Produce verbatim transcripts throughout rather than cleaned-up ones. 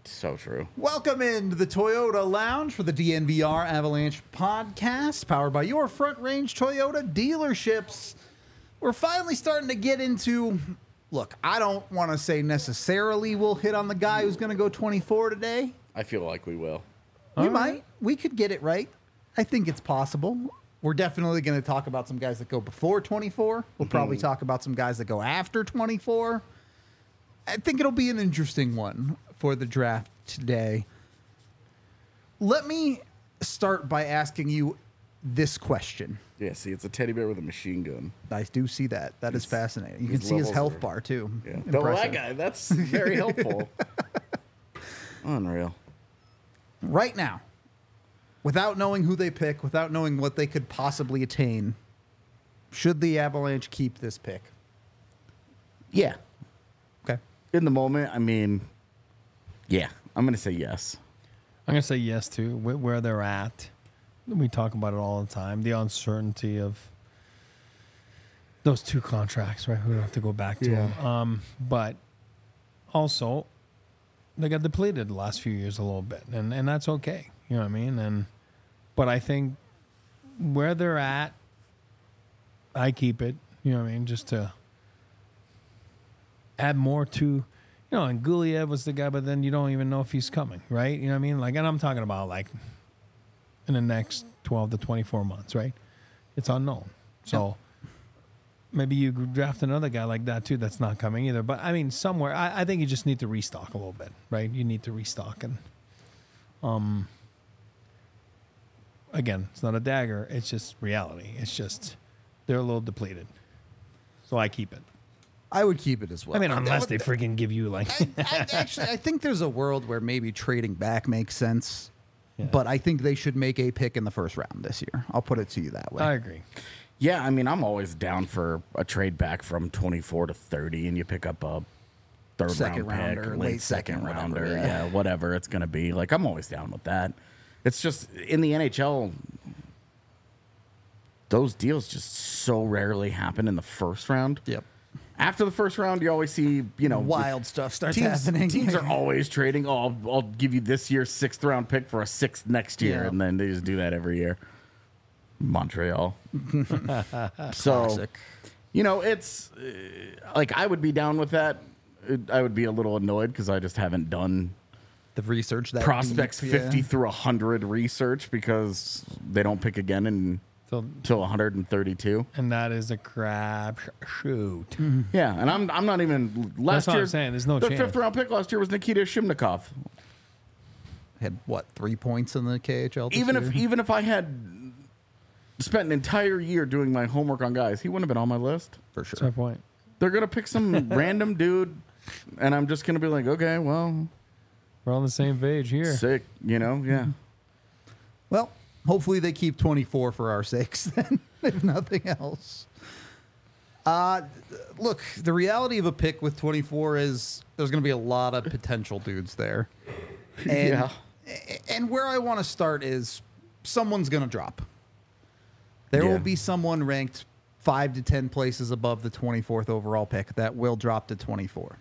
So true. Welcome into the Toyota Lounge for the D N V R Avalanche podcast, powered by your Front Range Toyota dealerships. We're finally starting to get into, look, I don't want to say necessarily we'll hit on the guy who's going to go twenty-four today. I feel like we will. We All might. right. We could get it right. I think it's possible. We're definitely going to talk about some guys that go before twenty-four. We'll probably talk about some guys that go after twenty-four. I think it'll be an interesting one for the draft today. Let me start by asking you this question. Yeah, see, it's a teddy bear with a machine gun. I do see that. That is His- fascinating. You his can see his levels health are- bar, too. Yeah. Oh, Impressive. that guy, that's very helpful. Unreal. Right now, without knowing who they pick, without knowing what they could possibly attain, should the Avalanche keep this pick? Yeah. Okay. In the moment, I mean, yeah, I'm going to say yes. I'm going to say yes to wh- where they're at. We talk about it all the time. The uncertainty of those two contracts, right? We don't have to go back to Yeah. them. Um, but also, they got depleted the last few years a little bit, and, and that's okay. You know what I mean? And but I think where they're at, I keep it. You know what I mean? Just to add more to, you know, and Guliev was the guy, but then you don't even know if he's coming, right? You know what I mean? Like, and I'm talking about like in the next twelve to twenty-four months, right? It's unknown. So maybe you draft another guy like that too that's not coming either. But I mean, somewhere, I, I think you just need to restock a little bit, right? You need to restock. And um, again, it's not a dagger. It's just reality. It's just they're a little depleted. So I keep it. I would keep it as well. I mean, I- unless I they would- freaking give you like... I, I, actually, I think there's a world where maybe trading back makes sense, Yeah. but I think they should make a pick in the first round this year. I'll put it to you that way. I agree. Yeah, I mean, I'm always down for a trade back from twenty-four to thirty, and you pick up a third Second round pick, rounder, late, late second, second, whatever, rounder, yeah. yeah. whatever it's going to be. Like, I'm always down with that. It's just in the N H L, those deals just so rarely happen in the first round. Yep. After the first round, you always see, you know, Wild stuff starts teams, happening. teams are always trading. Oh, I'll, I'll give you this year's sixth round pick for a sixth next year, Yeah. and then they just do that every year. Montreal. So, Classic. you know, it's uh, like I would be down with that. It- I would be a little annoyed because I just haven't done The research that prospects deep, yeah. fifty through one hundred research because they don't pick again in, So, until one hundred thirty-two. and that is a crap sh- shoot. Yeah, and I'm I'm not even last what year. I'm saying. There's no the chance. fifth round pick last year was Nikita Shimnikov. Had what, three points in the K H L? this Even year? if even if I had spent an entire year doing my homework on guys, he wouldn't have been on my list. for That's sure. my point. They're gonna pick some random dude, and I'm just gonna be like, okay, well, We're on the same page here. sick, you know, yeah. Well, hopefully they keep twenty-four for our sakes, then, if nothing else. Uh, look, the reality of a pick with twenty-four is there's going to be a lot of potential dudes there. And, Yeah. And where I want to start is someone's going to drop. There Yeah. will be someone ranked five to ten places above the twenty-fourth overall pick that will drop to twenty-four.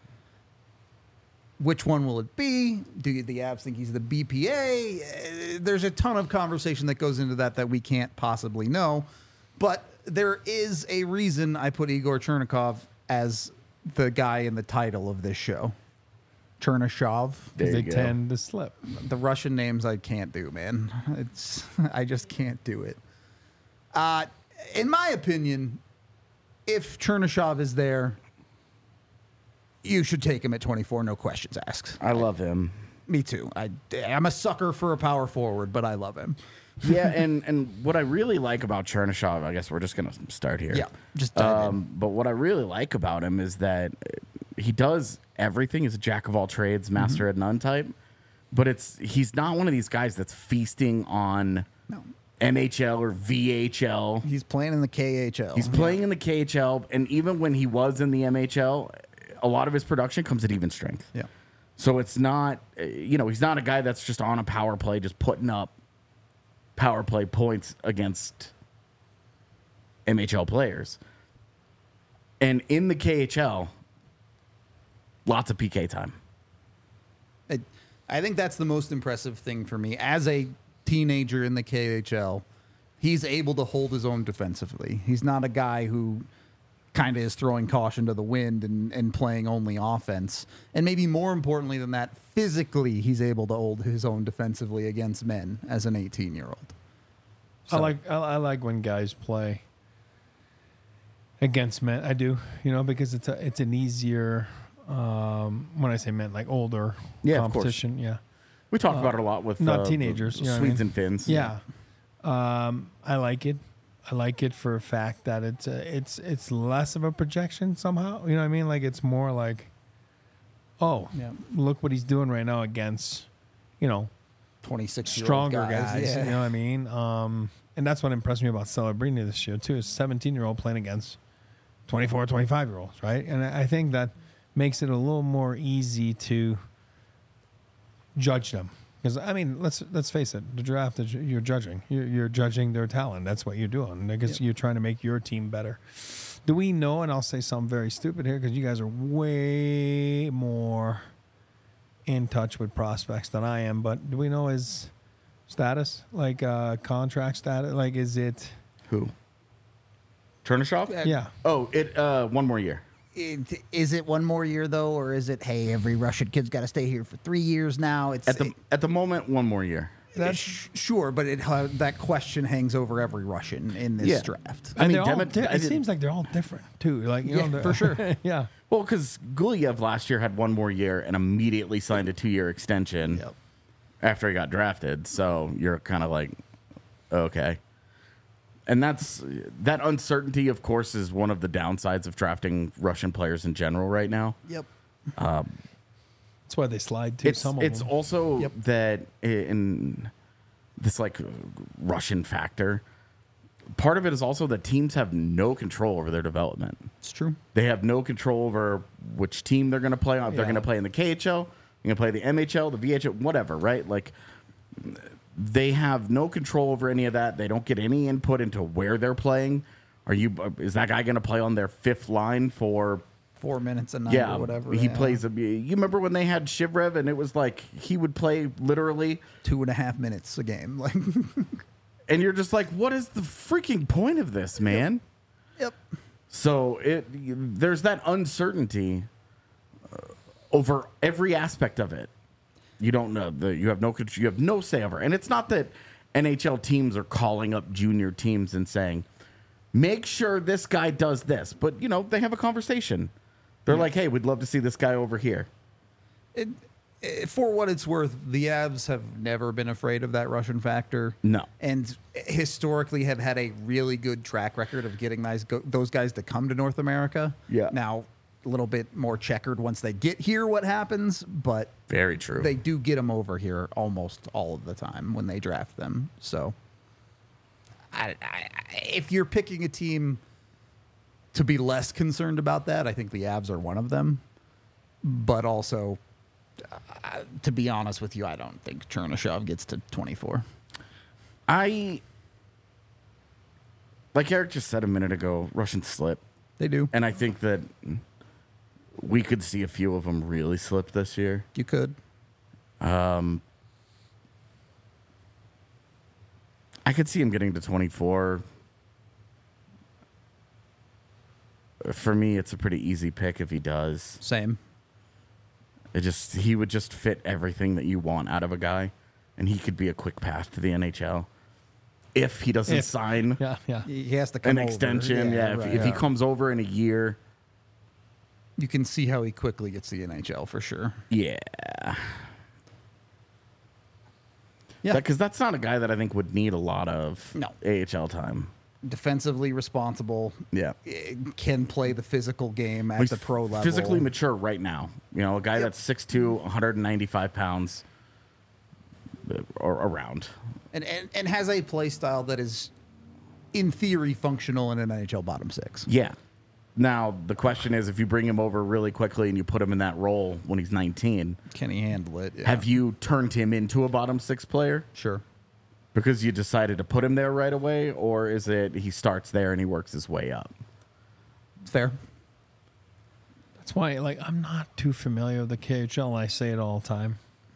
Which one will it be? Do the Avs think he's the B P A? Uh, There's a ton of conversation that goes into that that we can't possibly know. But there is a reason I put Igor Chernikov as the guy in the title of this show. Chernyshov. There They you go. tend to slip. The Russian names I can't do, man. It's I just can't do it. Uh, in my opinion, if Chernyshov is there, you should take him at twenty-four, no questions asked. I love him. Me too. I, I'm a sucker for a power forward, but I love him. Yeah, and and what I really like about Chernyshov, I guess we're just gonna start here. Yeah, just dive in. Um, but what I really like about him is that he does everything. He's a jack of all trades, master Mm-hmm. at none type. But it's he's not one of these guys that's feasting on No. N H L or V H L. He's playing in the K H L. He's playing in the K H L, and even when he was in the M H L, a lot of his production comes at even strength. Yeah. So it's not, uh, you know, he's not a guy that's just on a power play, just putting up power play points against M H L players. And in the K H L, lots of P K time. I, I think that's the most impressive thing for me. As a teenager in the K H L, he's able to hold his own defensively. He's not a guy who kind of is throwing caution to the wind and, and playing only offense. And maybe more importantly than that, physically, he's able to hold his own defensively against men as an eighteen-year-old. I like I, I like when guys play against men. I do, you know, because it's a it's an easier. Um, when I say men, like older Yeah, of course. competition. Yeah, We talk about it a lot with not uh, teenagers, you know what I Swedes mean? and Finns. yeah. Um, I like it. I like it for a fact that it's a, it's it's less of a projection somehow. You know what I mean? Like it's more like, oh, Yeah. look what he's doing right now against, you know, twenty-six-year-old stronger guys. guys. Yeah. You know what I mean? Um, and that's what impressed me about Celebrini this year too. Is seventeen-year-old playing against twenty-four, twenty-five-year-olds, right? And I I think that makes it a little more easy to judge them. Because I mean, let's let's face it, the draft is you're judging. You're, you're judging their talent. That's what you're doing. I guess Yep. you're trying to make your team better. Do we know? And I'll say something very stupid here because you guys are way more in touch with prospects than I am. But do we know his status, like uh, contract status? Like, is it? Who? Chernyshov? Uh, Yeah. Oh, it uh, one more year. It, is it one more year though, or is it, hey, every Russian kid's got to stay here for three years now? It's At the at the moment, one more year. That's sure, but it uh, that question hangs over every Russian in this Yeah. draft. I And mean, they're all Demi- di- I it did- seems like they're all different too. Like, you Yeah, know, they're- for sure. yeah. Well, because Gulyev last year had one more year and immediately signed a two-year extension Yep. after he got drafted. So you're kind of like, okay. And that's that uncertainty, of course, is one of the downsides of drafting Russian players in general right now. Yep. That's why they slide too. It's some of it's them. also Yep. that in this like Russian factor. Part of it is also that teams have no control over their development. It's true. They have no control over which team they're going to play on. If they're Yeah. going to play in the K H L, you're going to play the M H L, the V H L, whatever, right? Like, they have no control over any of that. They don't get any input into where they're playing. Are you? Is that guy going to play on their fifth line for? Four minutes a night Yeah, or whatever. he yeah. plays. A, you remember when they had Shivrev and it was like he would play literally, two and a half minutes a game. Like, and you're just like, what is the freaking point of this, man? yep. So it there's that uncertainty uh, over every aspect of it. You don't know the you have no contr- you have no say over, and it's not that N H L teams are calling up junior teams and saying, "Make sure this guy does this," but you know they have a conversation. They're like, "Hey, we'd love to see this guy over here." It, it, for what it's worth, the Avs have never been afraid of that Russian factor. No. And historically have had a really good track record of getting those, go, those guys to come to North America. Yeah. Now, a little bit more checkered once they get here what happens, but Very true. they do get them over here almost all of the time when they draft them. So, I, I, if you're picking a team to be less concerned about that, I think the Avs are one of them. But also, uh, to be honest with you, I don't think Chernyshov gets to twenty-four. I like Eric just said a minute ago, Russians slip, They do. and I think that we could see a few of them really slip this year. You could. I could see him getting to twenty-four. For me, it's a pretty easy pick if he does. Same. It just he would just fit everything that you want out of a guy, and he could be a quick path to the N H L if he doesn't If- sign Yeah, yeah. He has to come an over. extension. Yeah, if, right. if he Yeah. comes over in a year, You can see how he quickly gets the N H L for sure. yeah, Yeah. because that's not a guy that I think would need a lot of No. A H L time. Defensively responsible. Yeah. eh, Can play the physical game at He's the pro level. physically mature right now. You know, a guy Yep. that's six two, one hundred ninety-five pounds uh, or around. and, and and has a play style that is, in theory, functional in an N H L bottom six. Yeah. Now, the question is if you bring him over really quickly and you put him in that role when he's nineteen, Can he handle it? Yeah. have you turned him into a bottom six player Sure. because you decided to put him there right away? Or is it he starts there and he works his way up? Fair. That's why, like, I'm not too familiar with the K H L. I say it all the time.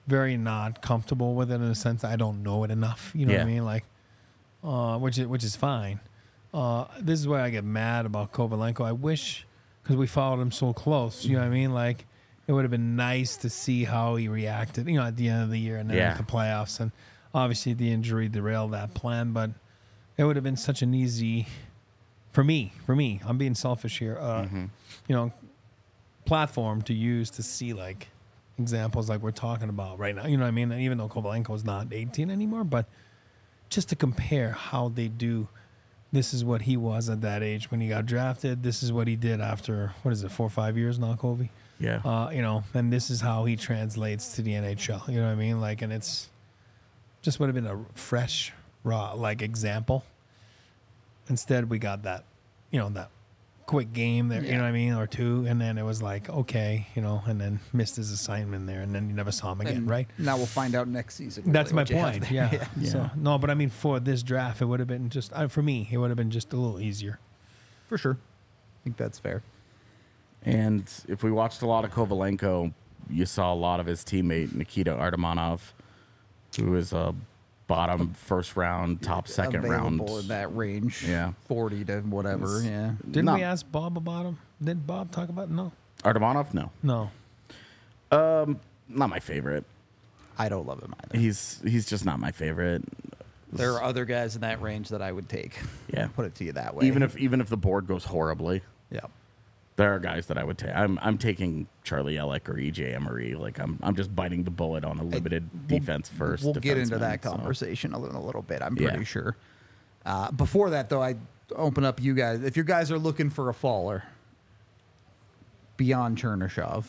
very not comfortable with it in a sense I don't know it enough. You know what I Yeah. mean? Like, uh, which is which is fine. Uh, this is where I get mad about Kovalenko. I wish, because we followed him so close. You know what I mean? Like, it would have been nice to see how he reacted. You know, at the end of the year and then Yeah. at the playoffs, and obviously the injury derailed that plan. But it would have been such an easy, for me, for me. I'm being selfish here. Uh, Mm-hmm. You know, platform to use to see like examples like we're talking about right now. You know what I mean? And even though Kovalenko is not eighteen anymore, but just to compare how they do. This is what he was at that age when he got drafted. This is what he did after, what is it, four or five years now, Kobe? Yeah. Uh, you know, and this is how he translates to the N H L. You know what I mean? Like, and it's just would have been a fresh, raw, like example. Instead, we got that, you know, that quick game there, you know what I mean, or two, and then it was like, okay, you know, and then missed his assignment there, and then you never saw him again, And right? Now we'll find out next season. That's really my what you have point. there. Yeah. Yeah. So no, but I mean, for this draft, it would have been just uh, for me. It would have been just a little easier. For sure. I think that's fair. And if we watched a lot of Kovalenko, you saw a lot of his teammate Nikita Artemonov, who is a bottom first round, top second round. Available in that range. Yeah. forty to whatever. Yeah. Didn't Not- we ask Bob about him? Did Bob talk about no? Artemonov, no, No. not my favorite. I don't love him either. He's he's just not my favorite. There are other guys in that range that I would take. Yeah. Put it to you that way. Even if even if the board goes horribly, Yeah. there are guys that I would take. I'm I'm taking Charlie Ellick or E J Emery. Like I'm I'm just biting the bullet on a limited We'll- defense first. We'll get into defenseman, that so. conversation a, little, a little bit, I'm Yeah. pretty sure. Uh, before that, though, I open up you guys. If you guys are looking for a faller beyond Chernyshov,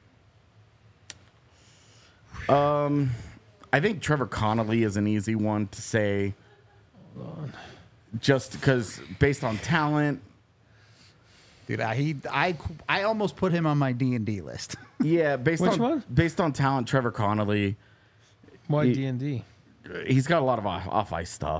I think Trevor Connolly is an easy one to say. Just because based on talent, dude, I, he, I, I almost put him on my D and D list. yeah. Based Which on one? based on talent, Trevor Connolly, Why He- D and D? he's got a lot of off ice stuff.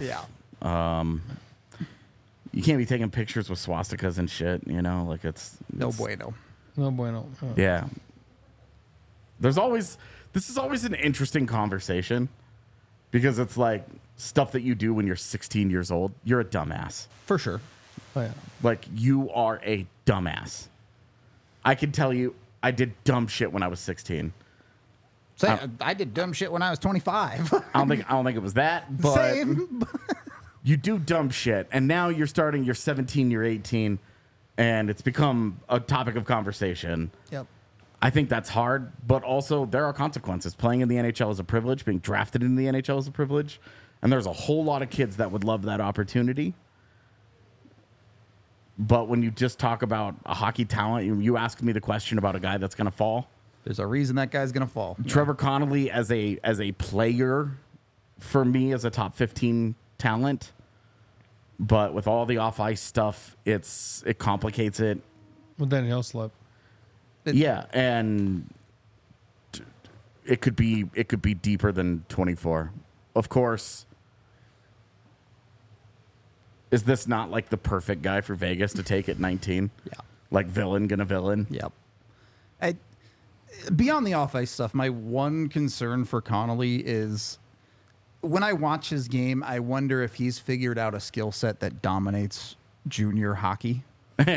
You can't be taking pictures with swastikas and shit. You know, like it's No it's- bueno. No bueno. Oh. Yeah. There's always this is always an interesting conversation because it's like stuff that you do when you're sixteen years old. You're a dumbass. For sure. Oh, yeah. Like you are a dumbass. I can tell you I did dumb shit when I was sixteen. Say, Uh, I did dumb shit when I was twenty-five. I don't think I don't think it was that, but Same. you do dumb shit and now you're starting you're seventeen, you're eighteen and it's become a topic of conversation. Yep. I think that's hard, but also there are consequences. Playing in the N H L is a privilege. Being drafted in the N H L is a privilege. And there's a whole lot of kids that would love that opportunity. But when you just talk about a hockey talent, you, you ask me the question about a guy that's going to fall. There's a reason that guy's gonna fall. Trevor Connolly as a as a player, for me, as a top fifteen talent. But with all the off ice stuff, it's it complicates it. Well, then he'll slip. It- Yeah, and t- it could be it could be deeper than twenty-four. Of course, is this not like the perfect guy for Vegas to take at nineteen? Yeah. Like villain gonna villain. Yep. I, beyond the off ice stuff, my one concern for Connolly is when I watch his game, I wonder if he's figured out a skill set that dominates junior hockey.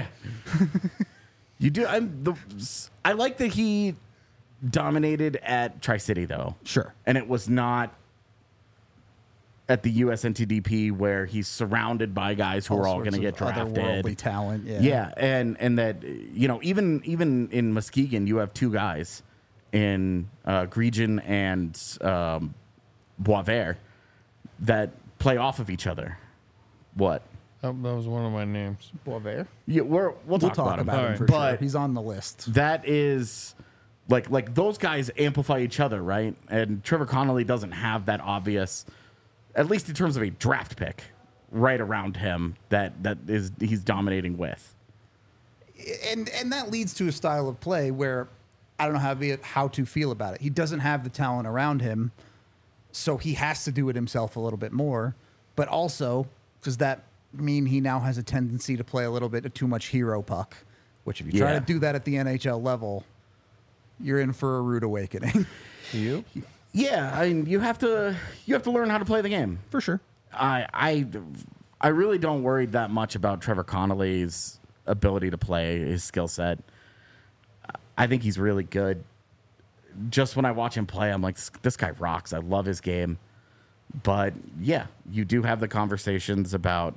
You do. I'm the. I like that he dominated at Tri City though. Sure. And it was not at the U S N T D P where he's surrounded by guys who are all sorts going to of get drafted. otherworldly talent. Yeah. Yeah, and and that you know even even in Muskegon you have two guys in uh, Gregen and um, Boisvert that play off of each other. What? Oh, that was one of my names. Boisvert. Yeah, we're, we'll, We'll talk, talk about, him. about him Alright. for But- sure. He's on the list. That is like like those guys amplify each other, right? And Trevor Connolly doesn't have that obvious, at least in terms of a draft pick, right around him that that is he's dominating with. and and that leads to a style of play where I don't know how to, how to feel about it. He doesn't have the talent around him, so he has to do it himself a little bit more. But also, does that mean he now has a tendency to play a little bit of too much hero puck? Which, if you try Yeah. to do that at the N H L level, you're in for a rude awakening. You? Yeah, I mean, you have to you have to learn how to play the game. For sure. I I I really don't worry that much about Trevor Connolly's ability to play, his skill set. I think he's really good. Just when I watch him play, I'm like, this, this guy rocks. I love his game. But yeah, you do have the conversations about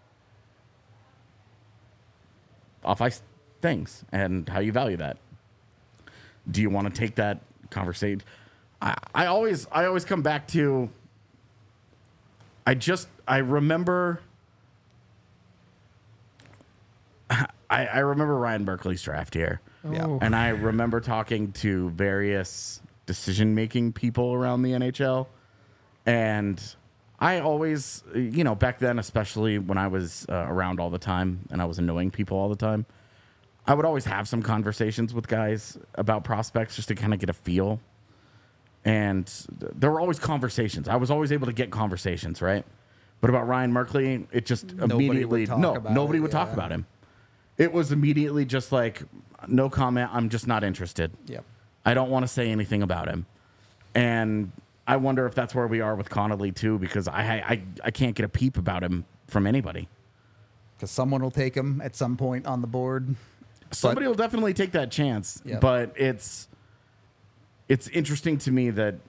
off ice things and how you value that. Do you want to take that conversation? I, I always I always come back to I just I remember I, I remember Ryan Berkeley's draft year. Yeah. And I remember talking to various decision making people around the N H L. And I always, you know, back then, especially when I was uh, around all the time and I was annoying people all the time, I would always have some conversations with guys about prospects just to kind of get a feel. And th- there were always conversations. I was always able to get conversations, right? But about Ryan Merkley, it just Nobody immediately, would talk no, about nobody it, would talk yeah. about him. It was immediately just like, no comment. I'm just not interested. Yep. I don't want to say anything about him. And I wonder if that's where we are with Connolly too, because I I, I can't get a peep about him from anybody. Because someone will take him at some point on the board. Somebody will definitely take that chance, Yep. but it's it's interesting to me that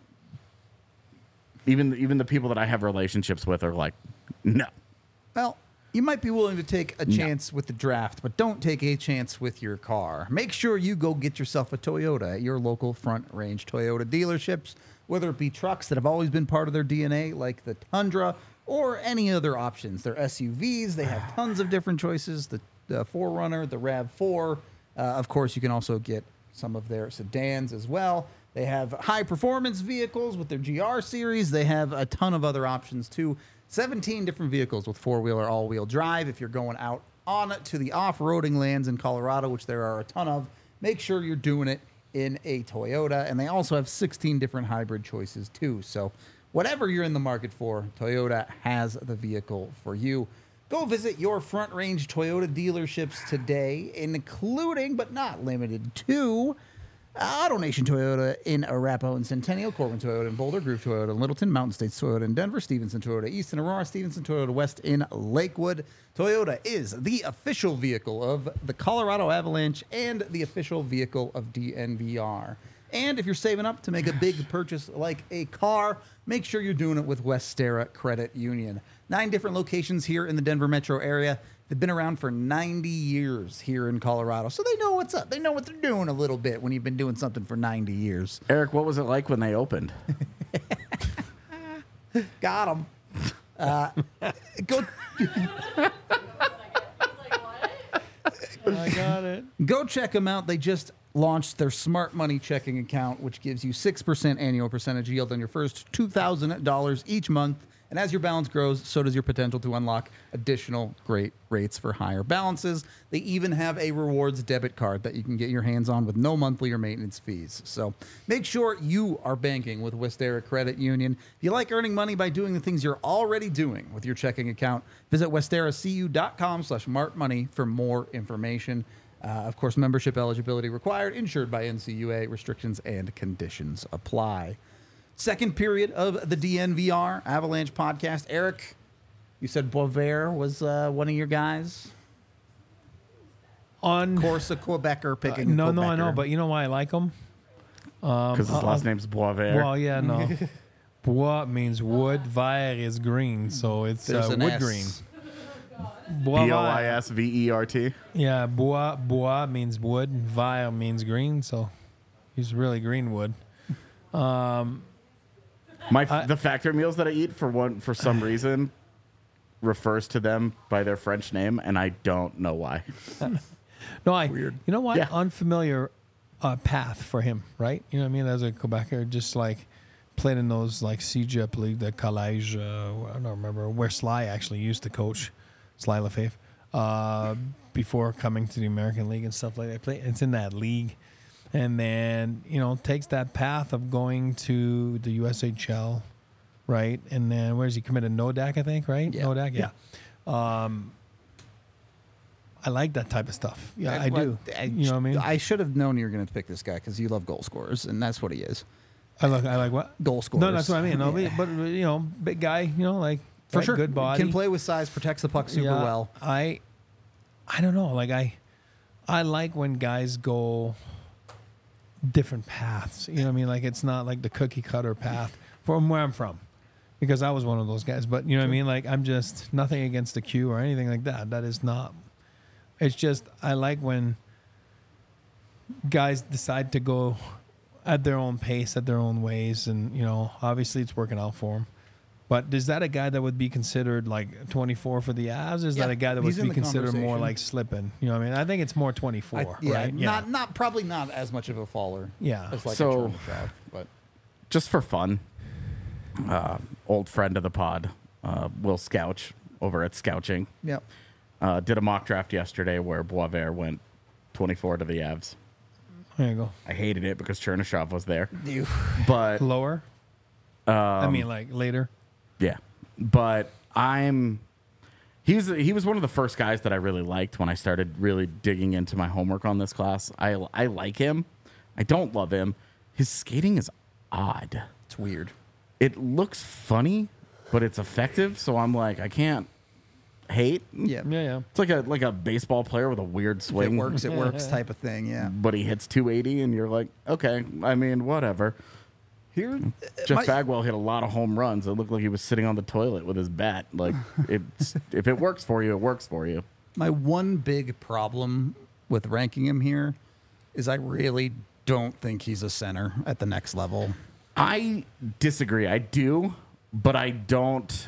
even even the people that I have relationships with are like, no. Well, you might be willing to take a chance with the draft, but don't take a chance with your car. Make sure you go get yourself a Toyota at your local Front Range Toyota dealerships, whether it be trucks that have always been part of their D N A, like the Tundra, or any other options. They're S U Vs. They have tons of different choices. The, the four runner, the RAV four. Uh, of course, you can also get some of their sedans as well. They have high-performance vehicles with their G R series. They have a ton of other options, too. seventeen different vehicles with four-wheel or all-wheel drive. If you're going out on to the off-roading lands in Colorado, which there are a ton of, make sure you're doing it in a Toyota. And they also have sixteen different hybrid choices, too. So whatever you're in the market for, Toyota has the vehicle for you. Go visit your Front Range Toyota dealerships today, including but not limited to Auto Nation Toyota in Arapahoe and Centennial, Corbin Toyota in Boulder, Groove Toyota in Littleton, Mountain States Toyota in Denver, Stevenson Toyota East in Aurora, Stevenson Toyota West in Lakewood. Toyota is the official vehicle of the Colorado Avalanche and the official vehicle of D N V R. And if you're saving up to make a big purchase like a car, make sure you're doing it with Westera Credit Union. Nine different locations here in the Denver metro area. They've been around for ninety years here in Colorado, so they know what's up. They know what they're doing a little bit when you've been doing something for ninety years. Eric, what was it like when they opened? Got them. Uh, go, I got it. go check them out. They just launched their Smart Money checking account, which gives you six percent annual percentage yield on your first two thousand dollars each month. And as your balance grows, so does your potential to unlock additional great rates for higher balances. They even have a rewards debit card that you can get your hands on with no monthly or maintenance fees. So make sure you are banking with Westera Credit Union. If you like earning money by doing the things you're already doing with your checking account, visit westeracu.com slash martmoney for more information. Uh, of course, membership eligibility required, insured by N C U A. Restrictions and conditions apply. Second period of the D N V R Avalanche podcast. Eric, you said Boisvert was uh, one of your guys. On Of course, a Quebecer picking. Uh, no, a no, I know, Quebecer. but you know why I like him? Because his uh, last uh, name's Boisvert. Well, yeah, no. Bois means wood, vert is green, so it's There's uh, an wood S. green. Bois B O I vert. S V E R T. Yeah, bois, bois means wood, vert means green, so he's really green wood. My f the factory meals that I eat for one for some reason refers to them by their French name, and I don't know why. No, I. Weird. You know what? Yeah. Unfamiliar uh, path for him, right? You know what I mean? As a Quebecer, just like played in those like C J P League, the Collège. Uh, I don't remember where Sly actually used to coach, Sly Lefebvre, uh, before coming to the American League and stuff like that. Play. It's in that league, and then you know takes that path of going to the U S H L, right? And then where's he committed? Nodak, I think, right? Yeah. Nodak, yeah. Um, I like that type of stuff. Yeah, I, I- do. I, you know what I mean? I should have known you were going to pick this guy because you love goal scorers, and that's what he is. I like I like what Goal scorers. No, that's what I mean. No, Yeah. but, but you know, big guy. You know, like For right, sure. good body, Can play with size, protects the puck super Yeah, well. I, I don't know. Like I, I like when guys go different paths. You know what I mean? Like it's not like the cookie cutter path from where I'm from, because I was one of those guys. But you know what I mean? Like I'm just nothing against the Q or anything like that. That is not. It's just I like when guys decide to go at their own pace, at their own ways, and you know, obviously it's working out for them. But is that a guy that would be considered like twenty-four for the Avs? Is Yeah, that a guy that would he's in be the considered more conversation. like slipping? You know what I mean? I think it's more twenty-four, I, yeah, right? not not probably not as much of a faller. Yeah. as like So- a Chernyshov, but Just for fun, uh, old friend of the pod, uh, Will Scouch over at Scouching, yeah, uh, did a mock draft yesterday where Boisvert went twenty-four to the Avs. There you go. I hated it because Chernyshov was there, you. but Lower. Um, I mean, like later. yeah, but I'm. He's he was one of the first guys that I really liked when I started really digging into my homework on this class. I I like him. I don't love him. His skating is odd. It's weird. It looks funny, but it's effective. So I'm like, I can't hate. Yeah, Yeah, yeah. It's like a like a baseball player with a weird if swing. it works, it works type of thing. Yeah. But he hits two eighty, and you're like, okay. I mean, whatever. Here, Jeff my- Bagwell hit a lot of home runs. It looked like he was sitting on the toilet with his bat. Like, it's, if it works for you, it works for you. My one big problem with ranking him here is I really don't think he's a center at the next level. I disagree. I do, but I don't.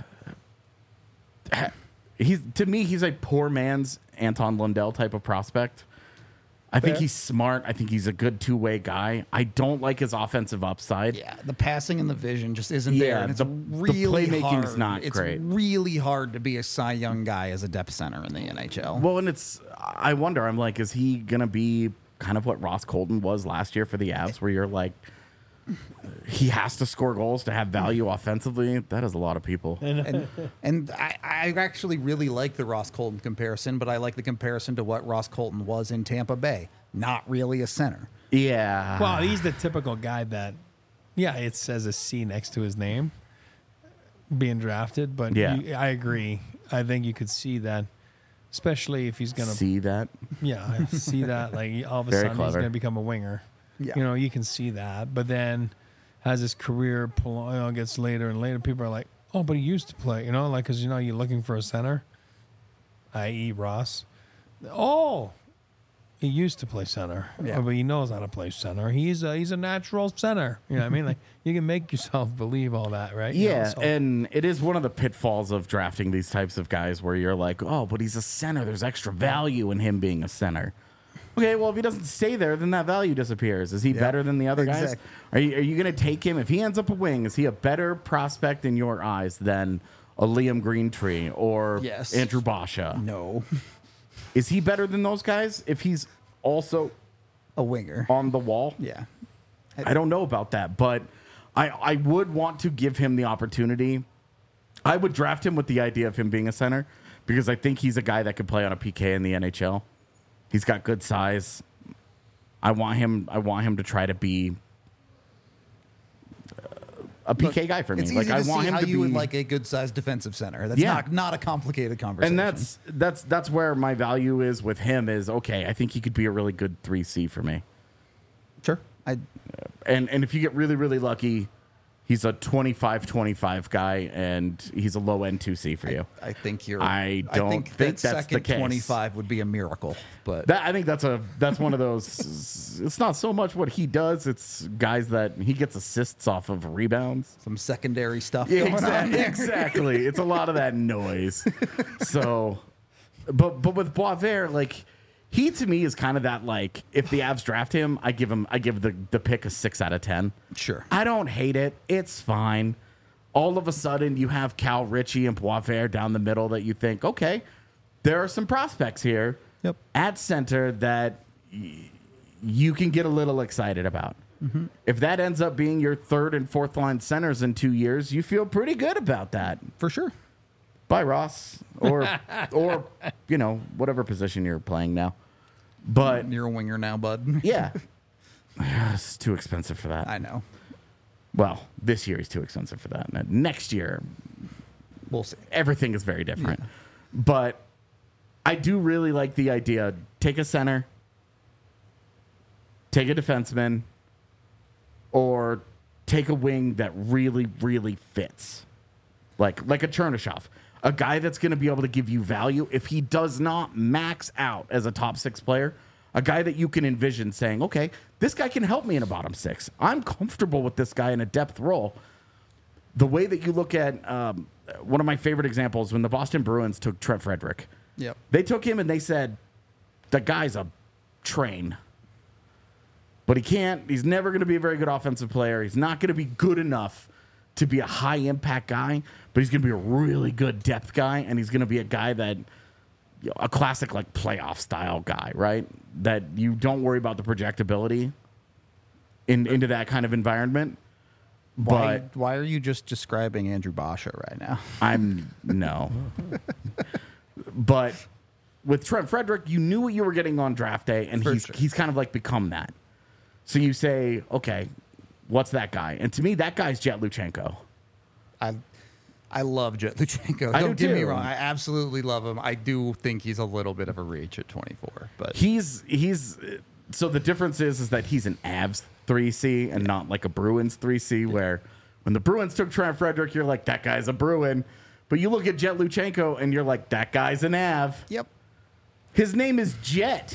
He's to me, he's a poor man's Anton Lundell type of prospect. I think Fair. he's smart. I think he's a good two way guy. I don't like his offensive upside. Yeah, the passing and the vision just isn't Yeah, there. And it's the- the really playmaking's hard. not it's great. really hard to be a Cy Young guy as a depth center in the N H L. Well, and it's, I wonder, I'm like, is he going to be kind of what Ross Colton was last year for the Avs, where you're like, he has to score goals to have value offensively? That is a lot of people. and and I, I actually really like the Ross Colton comparison, but I like the comparison to what Ross Colton was in Tampa Bay. Not really a center. Yeah. Well, he's the typical guy that, yeah, it says a C next to his name, being drafted. But Yeah. you, I agree. I think you could see that, especially if he's gonna, See that? yeah, I see that. Like all of a Very sudden he's clever. gonna become a winger. Yeah. You know, you can see that. But then, as his career pull, you know, gets later and later, people are like, "Oh, but he used to play." You know, like because you know you're looking for a center, that is. Ross. Oh, he used to play center, Yeah. but he knows how to play center. He's a he's a natural center. You know what I mean? Like you can make yourself believe all that, right? You know, Yeah, so- and it is one of the pitfalls of drafting these types of guys where you're like, oh, but he's a center. There's extra value in him being a center. Okay, well, if he doesn't stay there, then that value disappears. Is he better than the other guys? exactly. Are you, are you going to take him? If he ends up a wing, is he a better prospect in your eyes than a Liam Greentree or Yes. Andrew Basha? No, Is he better than those guys if he's also a winger. on the wall? Yeah. I don't know about that, but I, I would want to give him the opportunity. I would draft him with the idea of him being a center because I think he's a guy that could play on a P K in the N H L. He's got good size. I want him. I want him to try to be uh, a P K guy for me. It's Like easy I to want see him how to you be. would like a good sized defensive center. That's Yeah. not not a complicated conversation. and that's that's that's where my value is with him. Is okay. I think he could be a really good three C for me. sure. I And and if you get really really lucky, he's a twenty-five twenty-five guy, and he's a low end two C for you. I think you're. I don't think, think that that's the second case. twenty-five would be a miracle, but That I think that's a that's one of those. It's not so much what he does; it's guys that he gets assists off of rebounds. some secondary stuff Yeah, going on exactly. there. Exactly. It's a lot of that noise. So, but but with Boisvert, like he to me is kind of that like if the Avs draft him, I give him I give the the pick a six out of ten. Sure. I don't hate it. It's fine. All of a sudden, you have Cal Ritchie and Boisvert down the middle that you think, okay, there are some prospects here Yep. at center that y- you can get a little excited about. Mm-hmm. If that ends up being your third and fourth line centers in two years, you feel pretty good about that. For sure. Bye, Ross, or or you know whatever position you're playing now. But You're a winger now, bud. yeah, it's too expensive for that. I know. Well, this year he's too expensive for that. And next year, We'll see. everything is very different. But I do really like the idea. Take a center, take a defenseman, or take a wing that really, really fits. Like like a Chernyshov. A guy that's going to be able to give you value if he does not max out as a top six player. A guy that you can envision saying, okay, this guy can help me in a bottom six. I'm comfortable with this guy in a depth role. The way that you look at um, one of my favorite examples when the Boston Bruins took Trent Frederick. Yep. They took him and they said, the guy's a train. But he can't, he's never going to be a very good offensive player. He's not going to be good enough to be a high impact guy, but he's going to be a really good depth guy. And he's going to be a guy that, you know, a classic like playoff style guy, right? That you don't worry about the projectability in, into that kind of environment. Why, But why are you just describing Andrew Basha right now? I'm no. But with Trent Frederick, you knew what you were getting on draft day, and For he's sure. he's kind of like become that. So you say, okay, what's that guy? And to me, that guy's Jet Luchenko. I I love Jet Luchenko. I Don't do get me too. wrong. I absolutely love him. I do think he's a little bit of a reach at twenty-four. But He's he's so the difference is is that he's an Avs three C and not like a Bruins three C. Where when the Bruins took Trent Frederick, you're like, that guy's a Bruin. But you look at Jet Luchenko and you're like, that guy's an Av. yep. His name is Jet.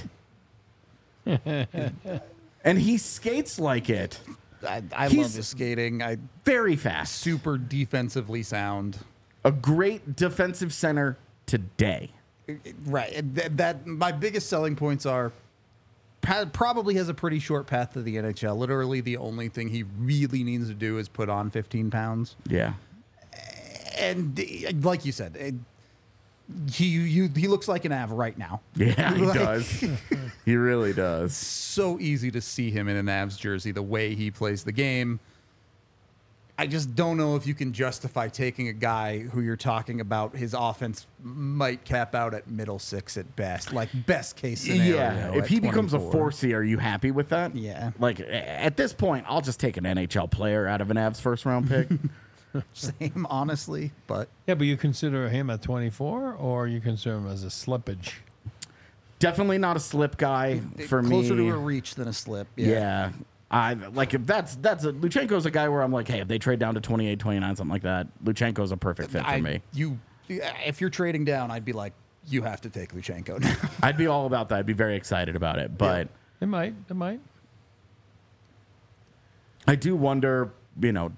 And he skates like it. I, I He's- love his skating. I Very fast. super defensively sound. A great defensive center today. Right. That, that my biggest selling points are pa- probably has a pretty short path to the N H L. Literally, the only thing he really needs to do is put on fifteen pounds. Yeah. And uh, like you said, it, he you, he looks like an Av right now. Yeah, he Like- does. He really does. So easy to see him in an Avs jersey, the way he plays the game. I just don't know if you can justify taking a guy who you're talking about. His offense might cap out at middle six at best, like best case scenario. Yeah. If at he becomes a twenty-four. four C, are you happy with that? Yeah. Like a- at this point, I'll just take an N H L player out of an Avs first round pick. Same, honestly, but Yeah, but you consider him at twenty-four, or you consider him as a slippage? Definitely not a slip guy for closer me. to a reach than a slip. Yeah. I like if that's that's a Luchenko's a guy where I'm like, hey, if they trade down to twenty-eight, twenty-nine, something like that, Luchenko's a perfect fit for I, me. You, if you're trading down, I'd be like, you have to take Luchenko now. I'd be all about that. I'd be very excited about it. But It might. It might. I do wonder, you know,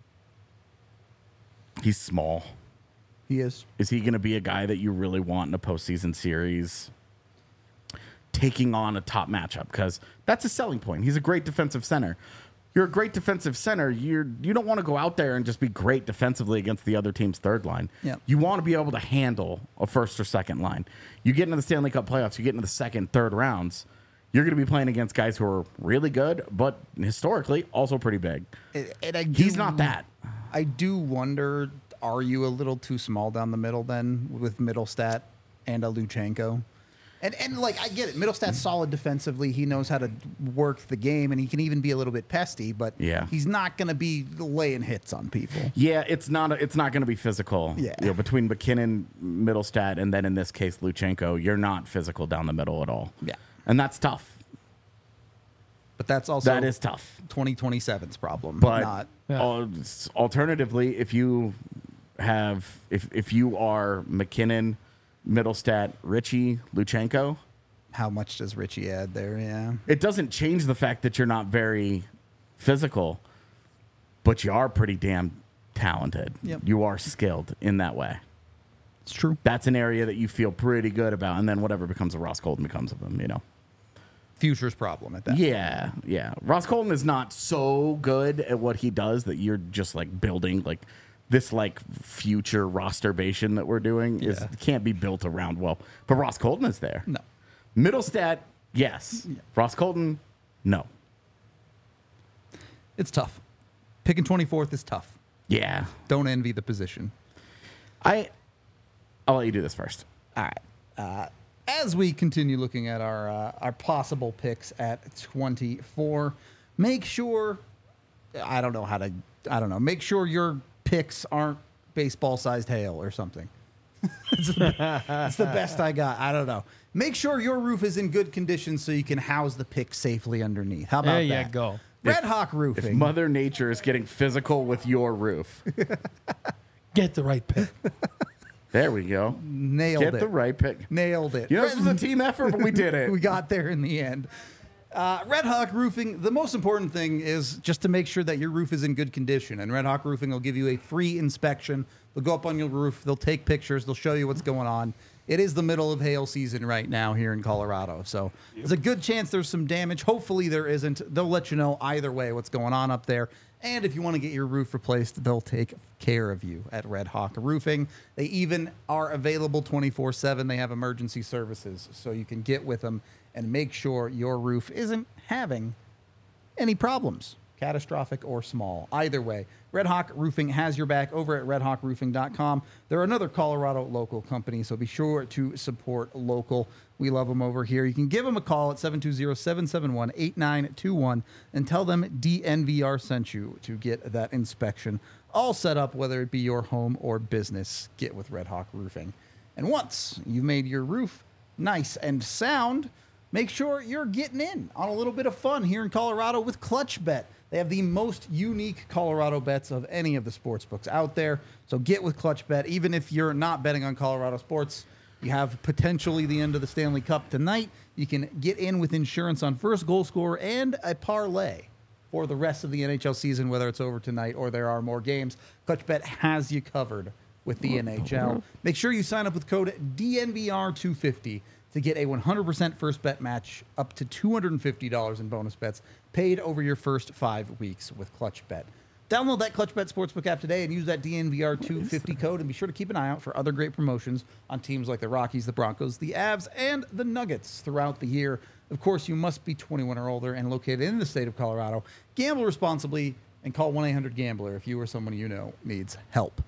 he's small. He is. Is he going to be a guy that you really want in a postseason series taking on a top matchup? Because that's a selling point. He's a great defensive center. You're a great defensive center. You're, you don't want to go out there and just be great defensively against the other team's third line. Yep. You want to be able to handle a first or second line. You get into the Stanley Cup playoffs, you get into the second, third rounds, you're going to be playing against guys who are really good, but historically also pretty big. And, and I do, He's not that. I do wonder, are you a little too small down the middle then with Middlestat and a Luchenko? And, and like, I get it. Middlestat's solid defensively. He knows how to work the game, and he can even be a little bit pesty, but Yeah. he's not going to be laying hits on people. Yeah, it's not. A, it's not going to be physical. Yeah. You know, between McKinnon, Middlestat, and then in this case Luchenko, you're not physical down the middle at all. Yeah. and that's tough. But that's also That is tough. twenty twenty-seven's problem. But not Yeah. al- alternatively, if you have if if you are McKinnon, Middlestat, Richie, Luchenko, how much does Richie add there? Yeah. it doesn't change the fact that you're not very physical, but you are pretty damn talented. Yep. You are skilled in that way. It's true. That's an area that you feel pretty good about, and then whatever becomes of Ross Colton becomes of him, you know. Future's problem at that. Yeah, yeah. Ross Colton is not so good at what he does that you're just like building like this like future rosterbation that we're doing is Yeah. can't be built around well. But Ross Colton is there. No. Middlestat, yes. Ross Colton, no. It's tough. Picking twenty-fourth is tough. Yeah. Don't envy the position. I I'll let you do this first. All right. Uh, as we continue looking at our uh, our possible picks at twenty-four, make sure I don't know how to. I don't know. Make sure your picks aren't baseball-sized hail or something. It's the, it's the best I got. I don't know. Make sure your roof is in good condition so you can house the pick safely underneath. How about There you that? go. Red If- Hawk If Roofing. Mother Nature is getting physical with your roof, Get the right pick. there we go. Nailed Get it. the right pick. Nailed it. You know, this was a team effort, but we did it. We got there in the end. Uh, Red Hawk Roofing, the most important thing is just to make sure that your roof is in good condition. And Red Hawk Roofing will give you a free inspection. They'll go up on your roof. They'll take pictures. They'll show you what's going on. It is the middle of hail season right now here in Colorado. So there's a good chance there's some damage. Hopefully there isn't. They'll let you know either way what's going on up there. And if you want to get your roof replaced, they'll take care of you at Red Hawk Roofing. They even are available twenty-four seven. They have emergency services, so you can get with them and make sure your roof isn't having any problems, catastrophic or small. Either way, Red Hawk Roofing has your back over at red hawk roofing dot com. They're another Colorado local company, so be sure to support local. We love them over here. You can give them a call at seven two zero, seven seven one, eight nine two one and tell them D N V R sent you to get that inspection all set up, whether it be your home or business. Get with Red Hawk Roofing. And once you've made your roof nice and sound, make sure you're getting in on a little bit of fun here in Colorado with Clutch Bet. They have the most unique Colorado bets of any of the sports books out there. So get with Clutch Bet. Even if you're not betting on Colorado sports, you have potentially the end of the Stanley Cup tonight. You can get in with insurance on first goal scorer and a parlay for the rest of the N H L season, whether it's over tonight or there are more games. Clutch Bet has you covered with the N H L. Make sure you sign up with code D N V R two fifty to get a one hundred percent first bet match up to two hundred fifty dollars in bonus bets paid over your first five weeks with Clutch Bet. Download that Clutch Bet Sportsbook app today and use that D N V R two fifty code, and be sure to keep an eye out for other great promotions on teams like the Rockies, the Broncos, the Avs, and the Nuggets throughout the year. Of course, you must be twenty-one or older and located in the state of Colorado. Gamble responsibly and call one eight hundred gambler if you or someone you know needs help.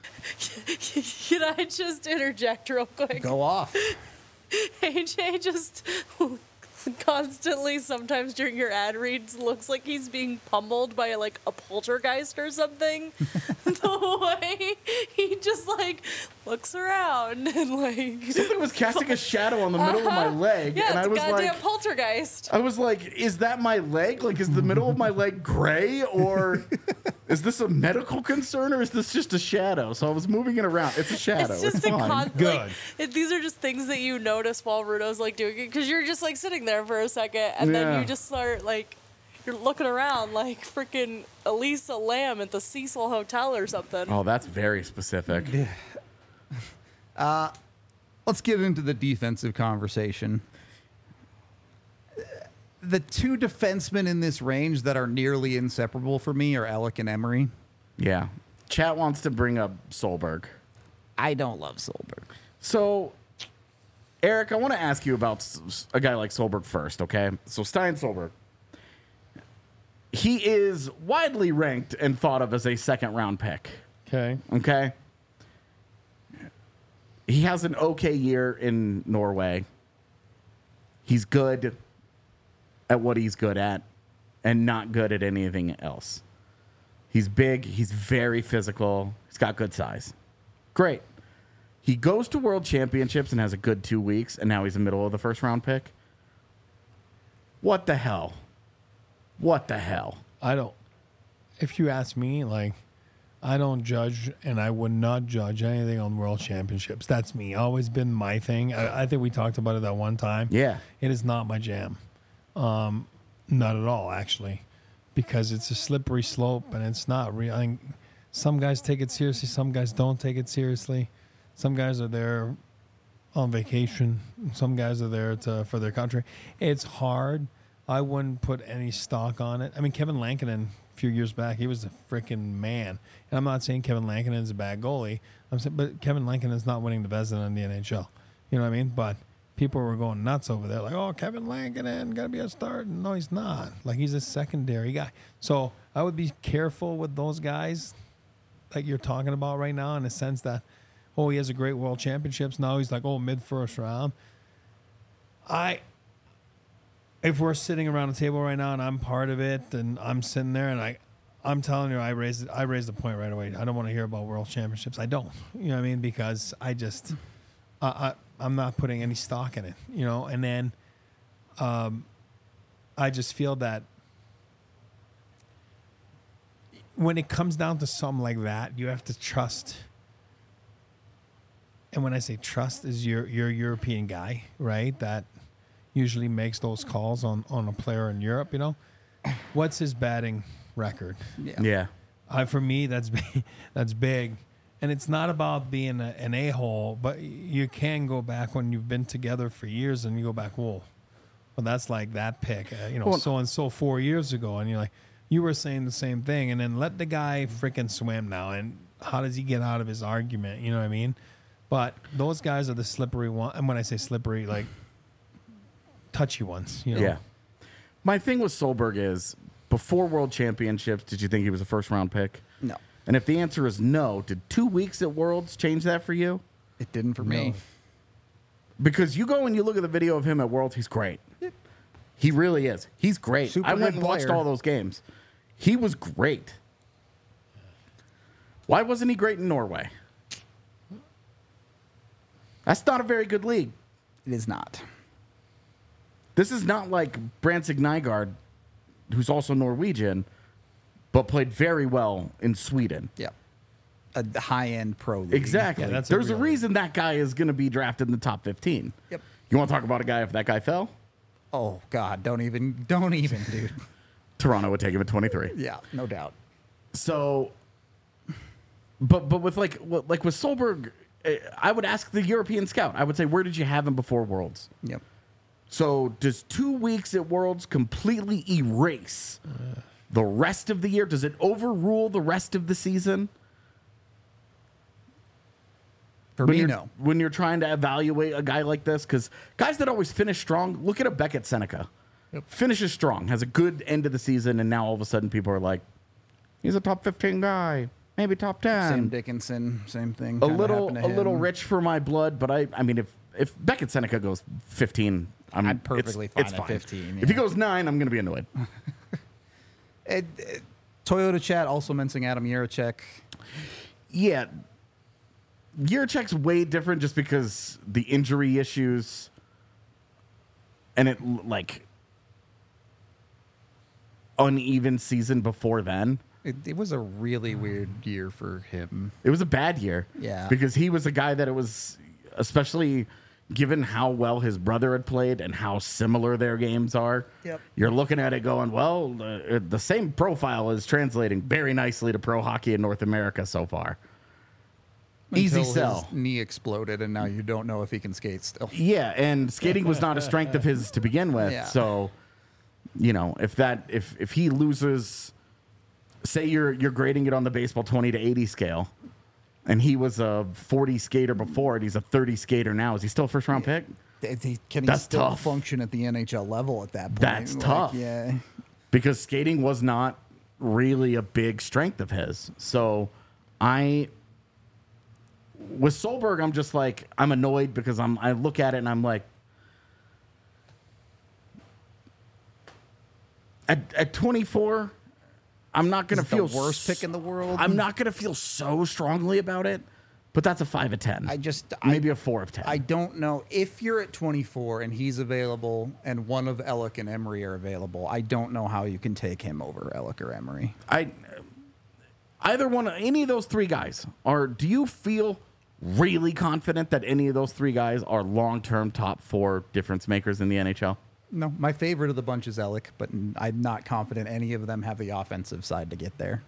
Can I just interject real quick? Go off. A J just constantly, sometimes during your ad reads, looks like he's being pummeled by like a poltergeist or something. The way he just like looks around and like Something was casting a shadow on the middle of my leg, yeah, and it's I a was goddamn like, poltergeist. I was like, is that my leg? Like, is the middle of my leg gray, or is this a medical concern, or is this just a shadow? So I was moving it around. It's a shadow. It's just It's a fine. con- Good. Like, it, these are just things that you notice while Rudo's like doing it, because you're just like sitting there for a second, and then Yeah. you just start like you're looking around like freaking Elisa Lamb at the Cecil Hotel or something. Oh, that's very specific. Let's get into the defensive conversation. The two defensemen in this range that are nearly inseparable for me are Alec and Emery. Yeah. Chat wants to bring up Solberg. I don't love Solberg. So, Eric, I want to ask you about s- s- a guy like Solberg first, okay? So, Stein Solberg. He is widely ranked and thought of as a second round pick, Okay. okay? He has an okay year in Norway. He's good at what he's good at and not good at anything else. He's big. He's very physical. He's got good size. Great. He goes to world championships and has a good two weeks, and now he's a middle of the first round pick. What the hell? What the hell? I don't. If you ask me, like, I don't judge, and I would not judge anything on world championships. That's me. Always been my thing. I, I think we talked about it that one time. Yeah. It is not my jam. Um, not at all, actually, because it's a slippery slope, and it's not real. I think some guys take it seriously. Some guys don't take it seriously. Some guys are there on vacation. Some guys are there to, for their country. It's hard. I wouldn't put any stock on it. I mean, Kevin Lankinen, a few years back, he was a freaking man. And I'm not saying Kevin Lankinen is a bad goalie. I'm saying, but Kevin Lankinen is not winning the Vezina in the N H L. You know what I mean? But people were going nuts over there, like, oh, Kevin Lankinen got to be a start. No, he's not. Like, he's a secondary guy. So I would be careful with those guys that you're talking about right now, in the sense that, oh, he has a great world championships. Now he's like, oh, mid first round. I, if we're sitting around a table right now and I'm part of it and I'm sitting there and I, I'm telling you, I raised I raised the point right away. I don't want to hear about world championships. I don't. You know what I mean? Because I just, I, I I'm not putting any stock in it. You know, and then, um, I just feel that when it comes down to something like that, you have to trust. And when I say trust, is your your European guy, right? That usually makes those calls on on a player in Europe. You know, what's his batting record? Yeah. Yeah. Uh, for me, that's big, that's big, and it's not about being a, an a hole, but you can go back when you've been together for years, and you go back, whoa, well, that's like that pick, uh, you know, Well, so and so four years ago, and you're like, you were saying the same thing, and then let the guy freaking swim now, and how does he get out of his argument? You know what I mean? But those guys are the slippery one, and when I say slippery, like touchy ones, you know? Yeah. My thing with Solberg is, before World Championships, did you think he was a first round pick? No, And if the answer is no, did two weeks at Worlds change that for you? it didn't for me. No. Because you go and you look at the video of him at Worlds, he's great. He really is. He's great. Super I went good and watched player. all those games. He was great. Why wasn't he great in Norway? That's not a very good league. It is not. This is not like Brandsig Nygaard, who's also Norwegian, but played very well in Sweden. Yeah, a high-end pro league. Exactly. Yeah, that's a There's a, real- reason that guy is going to be drafted in the top fifteen. Yep. You want to talk about a guy if that guy fell? Oh God, don't even, don't even, dude. Toronto would take him at twenty-three. Yeah, no doubt. So, but but with like what- like with Solberg, eh, I would ask the European scout. I would say, where did you have him before Worlds? Yep. So does two weeks at Worlds completely erase the rest of the year? Does it overrule the rest of the season? For when me, you're, no. When you're trying to evaluate a guy like this, because guys that always finish strong, look at a Beckett Seneca. Yep. Finishes strong, has a good end of the season, and now all of a sudden people are like, he's a top fifteen guy, maybe top ten. Sam Dickinson, same thing. a kinda little happened to a little him. rich for my blood, but I I mean if if Beckett Seneca goes fifteen, I'm I'm perfectly it's, fine it's at fine. fifteen, If he yeah. goes nine, I'm gonna be annoyed. It, it, Toyota chat also mentioning Adam Yerachek. Yeah, Jiricek's way different just because the injury issues, and it l- like uneven season before then. It, it was a really weird year for him. It was a bad year. Yeah. Because he was a guy that it was, especially given how well his brother had played and how similar their games are. Yep. You're looking at it going, well, uh, the same profile is translating very nicely to pro hockey in North America so far. Easy Until sell. His knee exploded, and now you don't know if he can skate still. Yeah, and skating was not a strength of his to begin with. Yeah. So, you know, if that if if he loses, say you're you're grading it on the baseball twenty to eighty scale, and he was a forty skater before and he's a thirty skater now, is he still a first round pick? Th- th- Can he That's still tough. function at the N H L level at that point? That's Like, tough. Yeah. Because skating was not really a big strength of his. So I with Solberg, I'm just like I'm annoyed because I'm I look at it and I'm like at at twenty-four, I'm not gonna Is it feel the worst s- pick in the world? I'm not gonna feel so strongly about it, but that's a five of ten. I just maybe I, a four of ten. I don't know if you're at twenty-four and he's available, and one of Ellick and Emery are available. I don't know how you can take him over Ellick or Emery. I either one of any of those three guys are do you feel really confident that any of those three guys are long-term top four difference makers in the N H L? No, my favorite of the bunch is Ellick, but I'm not confident any of them have the offensive side to get there.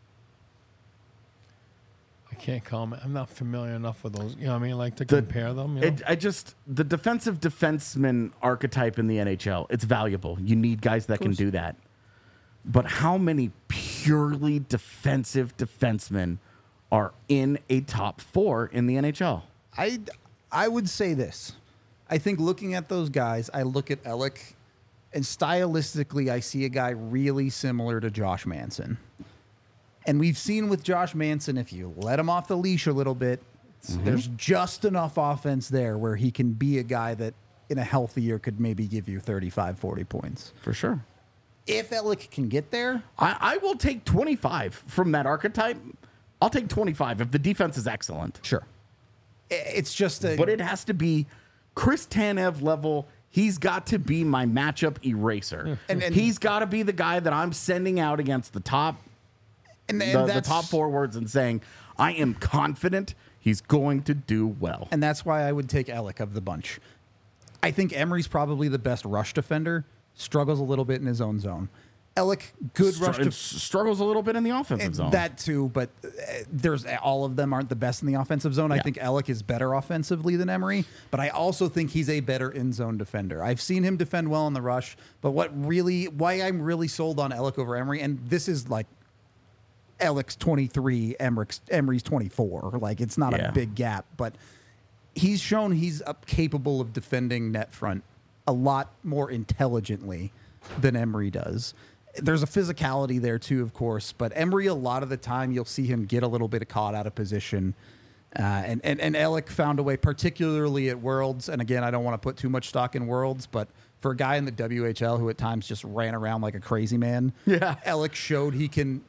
I can't comment. I'm not familiar enough with those. You know what I mean? Like to The- compare them. You know? It, I just the defensive defenseman archetype in the N H L, it's valuable. You need guys that can course. do that. But how many purely defensive defensemen are in a top four in the N H L? I I would say this. I think looking at those guys, I look at Ellick, and stylistically, I see a guy really similar to Josh Manson. And we've seen with Josh Manson, if you let him off the leash a little bit, there's just enough offense there where he can be a guy that in a healthy year could maybe give you thirty-five, forty points. For sure. if Ehrlich can get there, I, I will take twenty-five from that archetype. I'll take twenty-five if the defense is excellent. sure. I- It's just a But it has to be Chris Tanev level. He's got to be my matchup eraser. And- and- he's got to be the guy that I'm sending out against the top and, and the, the that's, top forwards and saying, I am confident he's going to do well. and that's why I would take Ehrlich of the bunch. I think Emery's probably the best rush defender. Struggles a little bit in his own zone. Ehrlich, good Str- rush and def- struggles a little bit in the offensive And zone. that too, but uh, there's all of them aren't the best in the offensive zone. I Yeah. think Ehrlich is better offensively than Emery, but I also think he's a better in zone defender. I've seen him defend well in the rush, but what really, why I'm really sold on Ehrlich over Emery, and this is like Ehrlich's twenty-three, Emery's, Emery's twenty-four. Like it's not Yeah. a big gap, but he's shown he's up capable of defending net front a lot more intelligently than Emery does. There's a physicality there too, of course, but Emery, a lot of the time, you'll see him get a little bit caught out of position. Uh, and, and, and Ehrlich found a way, particularly at Worlds. And again, I don't want to put too much stock in Worlds, but for a guy in the W H L who at times just ran around like a crazy man, Yeah. Ehrlich showed he can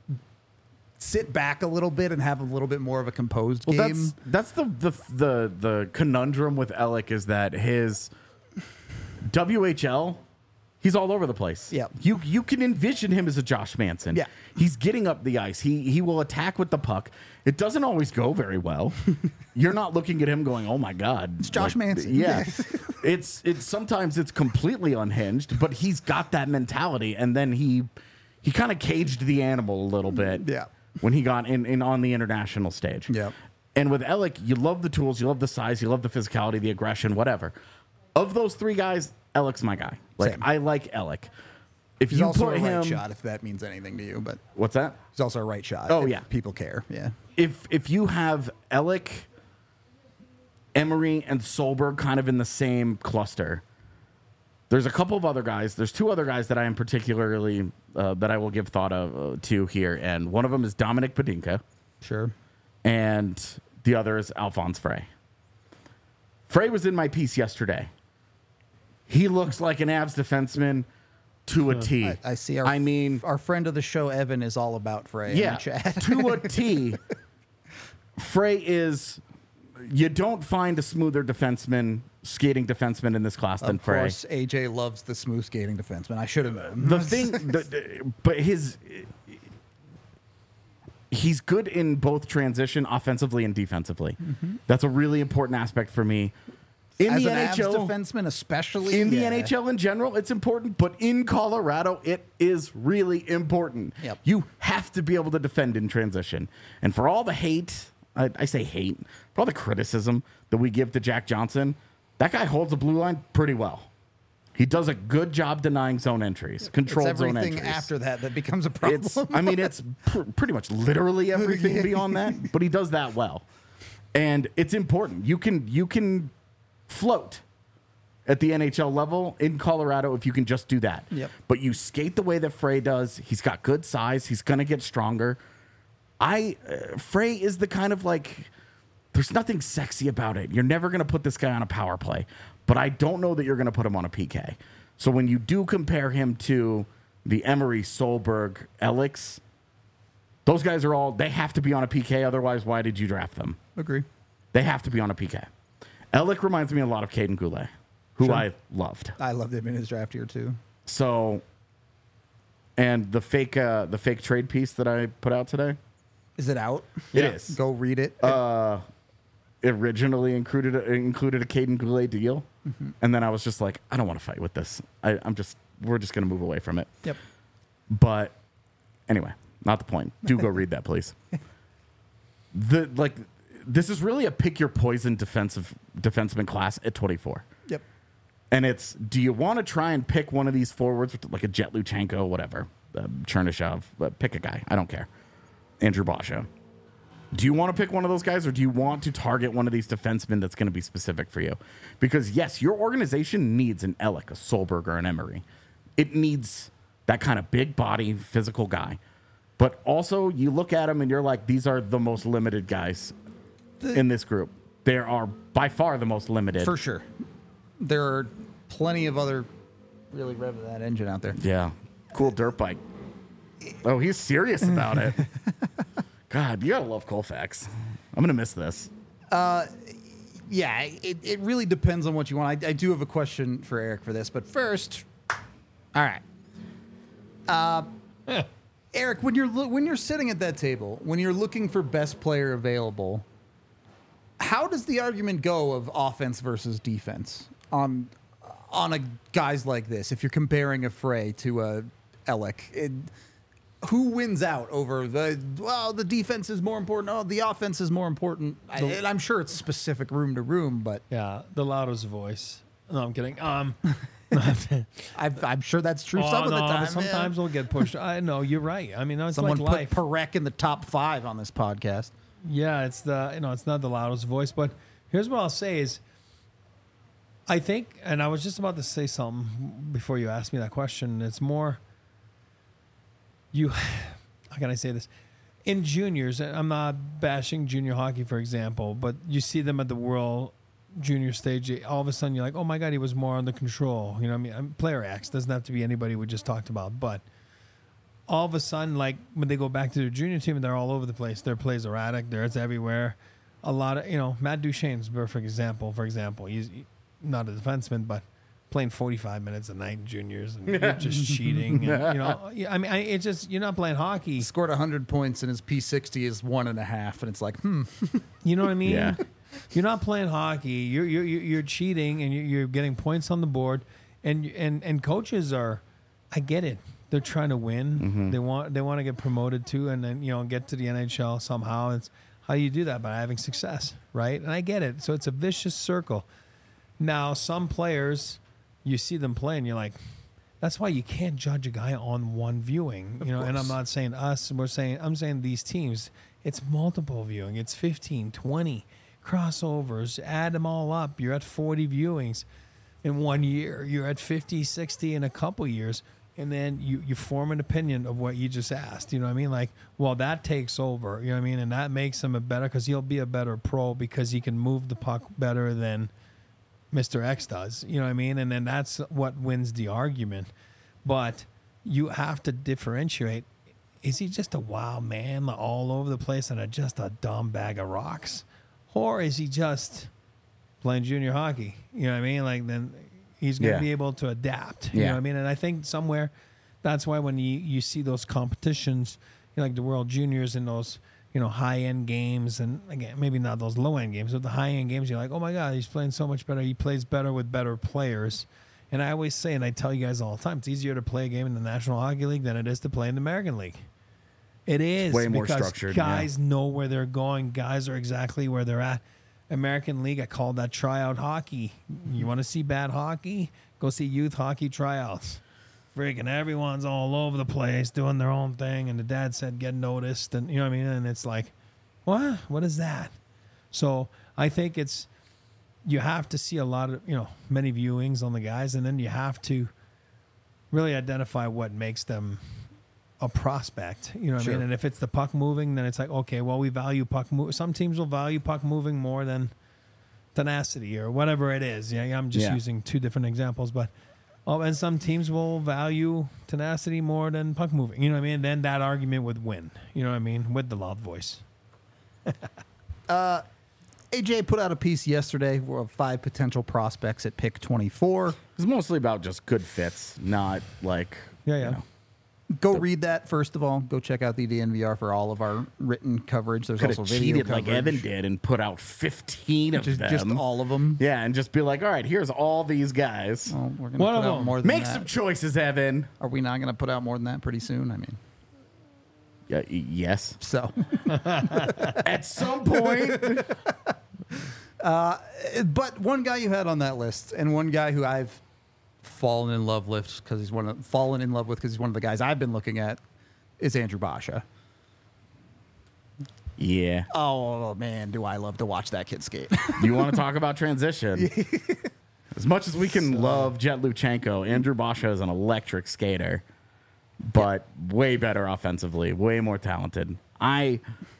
sit back a little bit and have a little bit more of a composed well, game. that's that's the, the the the conundrum with Ehrlich is that his W H L, he's all over the place. Yeah. You you can envision him as a Josh Manson. Yeah. He's getting up the ice. He he will attack with the puck. It doesn't always go very well. You're not looking at him going, "Oh my god." It's Josh Manson. Yeah. it's it's sometimes it's completely unhinged, but he's got that mentality, and then he he kind of caged the animal a little bit. Yeah. When he got in, in on the international stage. Yep. And with Ehrlich, you love the tools, you love the size, you love the physicality, the aggression, whatever. Of those three guys, Ehrlich's my guy. Like Same. I like Ehrlich. If He's you also put a right him, shot, if that means anything to you, but what's that? he's also a right shot. Oh, if yeah. people care. Yeah. If if you have Ehrlich, Emery, and Solberg kind of in the same cluster, there's a couple of other guys. There's two other guys that I am particularly uh, that I will give thought of uh, to here, and one of them is Dominic Padinka. Sure. And the other is Alphonse Frey. Frey was in my piece yesterday. He looks like an Avs defenseman to a T. I, I see. Our, I mean, our friend of the show, Evan, is all about Frey. in yeah, the chat. to a T. Frey is. You don't find a smoother defenseman, skating defenseman in this class than Of Frey. course, A J loves the smooth skating defenseman. I should have known. The thing, the, the- but his. He's good in both transition, offensively and defensively. That's a really important aspect for me. In As the an N H L, Avs defenseman, especially in the yeah. N H L in general, it's important, but in Colorado, it is really important. Yep. You have to be able to defend in transition. And for all the hate, I, I say hate, for all the criticism that we give to Jack Johnson, that guy holds the blue line pretty well. He does a good job denying zone entries, It's controlled zone everything entries. after that that becomes a problem. It's, I mean, it's pr- pretty much literally everything beyond that, but he does that well, and it's important. You can you can float at the N H L level in Colorado if you can just do that. Yep. But you skate the way that Frey does. He's got good size. He's going to get stronger. I uh, Frey is the kind of like. There's nothing sexy about it. You're never going to put this guy on a power play, but I don't know that you're going to put him on a P K. So when you do compare him to the Emery, Solberg, Ehrlichs, those guys are all, they have to be on a P K. Otherwise, why did you draft them? Agree. They have to be on a P K. Ehrlich reminds me a lot of Caden Goulet, who Sure. I loved. I loved him in his draft year too. So, and the fake, uh, the fake trade piece that I put out today, Is it out? It is. Go read it. uh, originally included a, included a Caden Goulet deal, Mm-hmm. and then I was just like, I don't want to fight with this. I, I'm just, we're just gonna move away from it. yep. But anyway, not the point. Do go read that, please. The like, this is really a pick your poison defensive defenseman class at twenty-four, Yep. and it's do you want to try and pick one of these forwards like a Jet Luchenko, whatever, uh, Chernyshov, but pick a guy. I don't care. Andrew Basha. Do you want to pick one of those guys, or do you want to target one of these defensemen that's going to be specific for you? Because, yes, your organization needs an Ehrlich, a Solberg, or an Emery. It needs that kind of big body, physical guy. But also, you look at them and you're like, these are the most limited guys in this group. They are by far the most limited. For sure. There are plenty of other really rev that engine out there. Yeah. cool dirt bike. Oh, he's serious about it. God, you gotta love Colfax. I'm gonna miss this. Yeah, it, it really depends on what you want. I, I do have a question for Eric for this, but first, all right. Uh, Eric, when you're lo- when you're sitting at that table, when you're looking for best player available, how does the argument go of offense versus defense on on a guys like this? If you're comparing a Frey to a Ellick, it, who wins out over the, well, the defense is more important. Oh, the offense is more important. I, and I'm sure it's specific room to room, but Yeah, the loudest voice. No, I'm kidding. Um, I've, I'm sure that's true oh, some of no, the but time. sometimes we'll get pushed. I know you're right. I mean, it's Someone like life. put Perek in the top five on this podcast. Yeah, it's the you know it's not the loudest voice, but here's what I'll say is, I think, and I was just about to say something before you asked me that question. It's more, you, how can I say this? In juniors, and I'm not bashing junior hockey, for example, but you see them at the World Junior stage. All of a sudden, you're like, oh my God, he was more under control. You know what I mean? I'm, player X doesn't have to be anybody we just talked about, but all of a sudden, like when they go back to their junior team, they're all over the place. Their plays erratic. They're it's everywhere. A lot of you know, Matt Duchene's a perfect example. For example, he's not a defenseman, but playing forty-five minutes a night in juniors and you're just cheating. And, you know, yeah, I mean, I, it's just you're not playing hockey. He scored one hundred points and his P sixty is one and a half, and it's like, hmm. You know what I mean? Yeah. You're not playing hockey. You're you're you're cheating and you're, you're getting points on the board, and and and coaches are, I get it. They're trying to win. Mm-hmm. They want they want to get promoted too, and then you know get to the N H L somehow. It's how you do that by having success, right? And I get it. So it's a vicious circle. Now some players, you see them play, and you're like, that's why you can't judge a guy on one viewing, you know. And I'm not saying us. We're saying I'm saying these teams. It's multiple viewing. It's fifteen, twenty crossovers. Add them all up. You're at forty viewings in one year. You're at fifty, sixty in a couple years. And then you, you form an opinion of what you just asked. You know what I mean? Like, well, that takes over. You know what I mean? And that makes him a better, because he'll be a better pro because he can move the puck better than Mister X does. You know what I mean? And then that's what wins the argument. But you have to differentiate. Is he just a wild man all over the place and a, just a dumb bag of rocks? Or is he just playing junior hockey? You know what I mean? Like, then he's going to Yeah. be able to adapt. You Yeah. know what I mean? And I think somewhere that's why when you, you see those competitions, you know, like the World Juniors and those, you know, high-end games, and again, maybe not those low-end games, but the high-end games, you're like, oh, my God, he's playing so much better. He plays better with better players. And I always say, and I tell you guys all the time, it's easier to play a game in the National Hockey League than it is to play in the American League. It is. way more because structured, yeah. Guys know where they're going. Guys are exactly where they're at. American League, I call that tryout hockey. You want to see bad hockey? Go see youth hockey tryouts. Freaking everyone's all over the place doing their own thing, and the dad said get noticed, and you know what I mean? And it's like, what? What is that? So I think it's, you have to see a lot of, you know, many viewings on the guys, and then you have to really identify what makes them a prospect. You know what Sure. I mean? And if it's the puck moving, then it's like, okay, well, we value puck move. Some teams will value puck moving more than tenacity or whatever it is. Yeah, I'm just Yeah. using two different examples, but oh, and some teams will value tenacity more than puck moving. You know what I mean? Then that argument would win. You know what I mean? With the loud voice. A J put out a piece yesterday of five potential prospects at pick twenty-four. It's mostly about just good fits, not like Yeah, yeah. you know, Go read that, first of all. Go check out the D N V R for all of our written coverage. There's could also have video cheated coverage. like Evan did and put out fifteen of Just, them. just all of them. Yeah, and just be like, all right, here's all these guys. Well, we're going to One put of out them. more than Make that. some choices, Evan. Are we not going to put out more than that pretty soon? I mean, Yeah, y- yes. so. At some point. But one guy you had on that list, and one guy who I've fallen in love with because he's one of fallen in love with because he's one of the guys I've been looking at, is Andrew Basha. Yeah. Oh man, do I love to watch that kid skate? You want to talk about transition? As much as we can love Jet Luchenko, Andrew Basha is an electric skater, but way better offensively, way more talented. I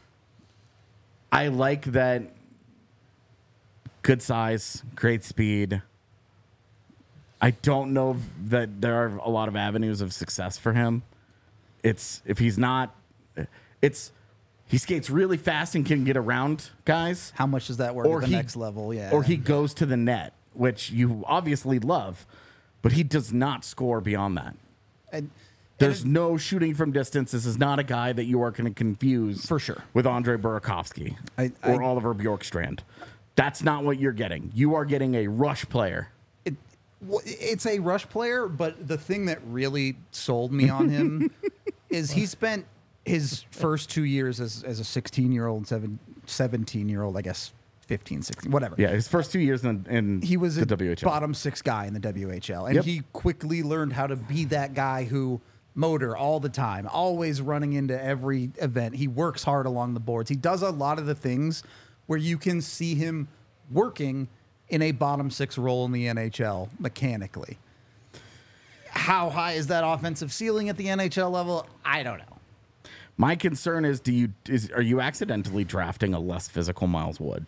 I like that good size, great speed, I don't know that there are a lot of avenues of success for him. It's if he's not, it's he skates really fast and can get around guys. How much does that work Or at the he- next level? Yeah. Or he goes to the net, which you obviously love, but he does not score beyond that. And, There's and no shooting from distance. This is not a guy that you are going to confuse For sure. with Andre Burakovsky I- or I- Oliver Bjorkstrand. That's not what you're getting. You are getting a rush player. it, well, it's a rush player, but the thing that really sold me on him is he spent his first two years as, as a sixteen year old, seven, seventeen year old, I guess fifteen, sixteen, whatever. Yeah, his first two years in, in He was the a W H L. bottom six guy in the W H L, and Yep. he quickly learned how to be that guy who motor all the time, always running into every event. He works hard along the boards. He does a lot of the things where you can see him working in a bottom six role in the N H L mechanically. How high is that offensive ceiling at the N H L level? I don't know. My concern is, do you is are you accidentally drafting a less physical Miles Wood?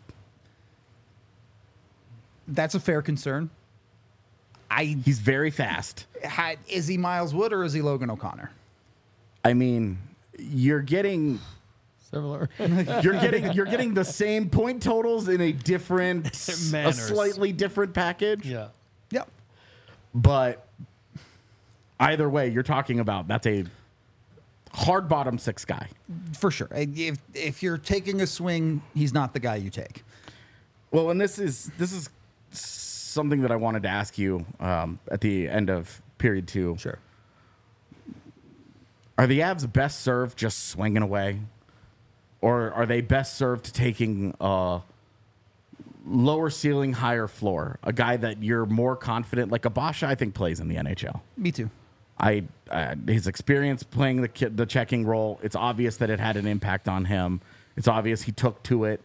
That's a fair concern. I He's very fast. had, is he Miles Wood or is he Logan O'Connor? I mean, you're getting Similar. you're getting you're getting the same point totals in a different, a Manners. slightly different package. yeah. Yep. But either way, you're talking about that's a hard bottom six guy. For sure. If if you're taking a swing, he's not the guy you take. Well, and this is this is something that I wanted to ask you um, at the end of period two. Sure. Are the Avs best served just swinging away, or are they best served taking a lower ceiling, higher floor, a guy that you're more confident, like Abasha, I think plays in the N H L. Me too. I uh, his experience playing the ki- the checking role, it's obvious that it had an impact on him. It's obvious he took to it.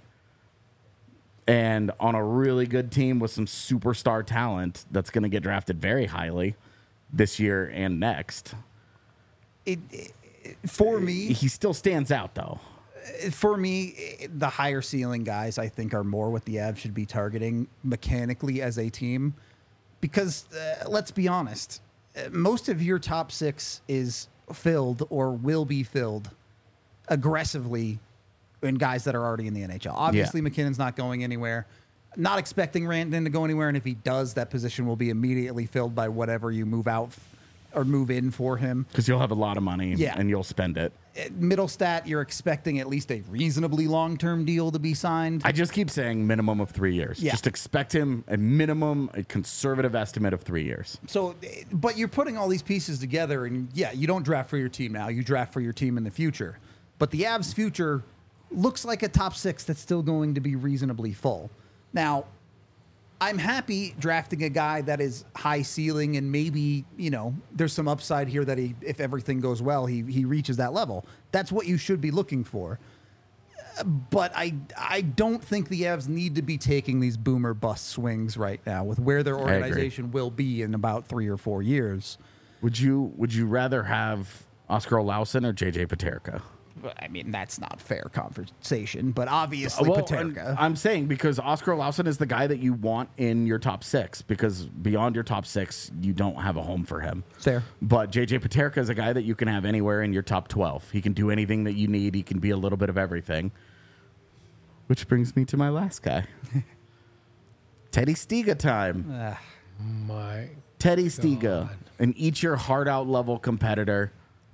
And on a really good team with some superstar talent that's going to get drafted very highly this year and next. It, it for me, He still stands out though. for me, the higher ceiling guys I think are more what the Avs should be targeting mechanically as a team, because uh, let's be honest, uh, most of your top six is filled or will be filled aggressively in guys that are already in the N H L. Obviously, McKinnon's not going anywhere. Not expecting Rantanen to go anywhere, and if he does, that position will be immediately filled by whatever you move out or move in for him. Because you'll have a lot of money Yeah. and you'll spend it. Middlestat, you're expecting at least a reasonably long-term deal to be signed. I just keep saying minimum of three years. Yeah. Just expect him a minimum, a conservative estimate of three years. So, but you're putting all these pieces together, and yeah, you don't draft for your team now. You draft for your team in the future. But the Avs' future looks like a top six that's still going to be reasonably full. Now, I'm happy drafting a guy that is high ceiling, and maybe, you know, there's some upside here that he, if everything goes well, he he reaches that level. That's what you should be looking for. But I I don't think the Avs need to be taking these boomer bust swings right now with where their agree. organization will be in about three or four years. Would you Would you rather have Oscar Olausen or J J Paterka? I mean, that's not fair conversation, but obviously Well, Paterka. I'm, I'm saying because Oscar Olausen is the guy that you want in your top six, because beyond your top six, you don't have a home for him. Fair. But J J Paterka is a guy that you can have anywhere in your top twelve. He can do anything that you need. He can be a little bit of everything. Which brings me to my last guy. Teddy Stiga time. Ah, My Teddy Stiga, God. an eat your heart out level competitor.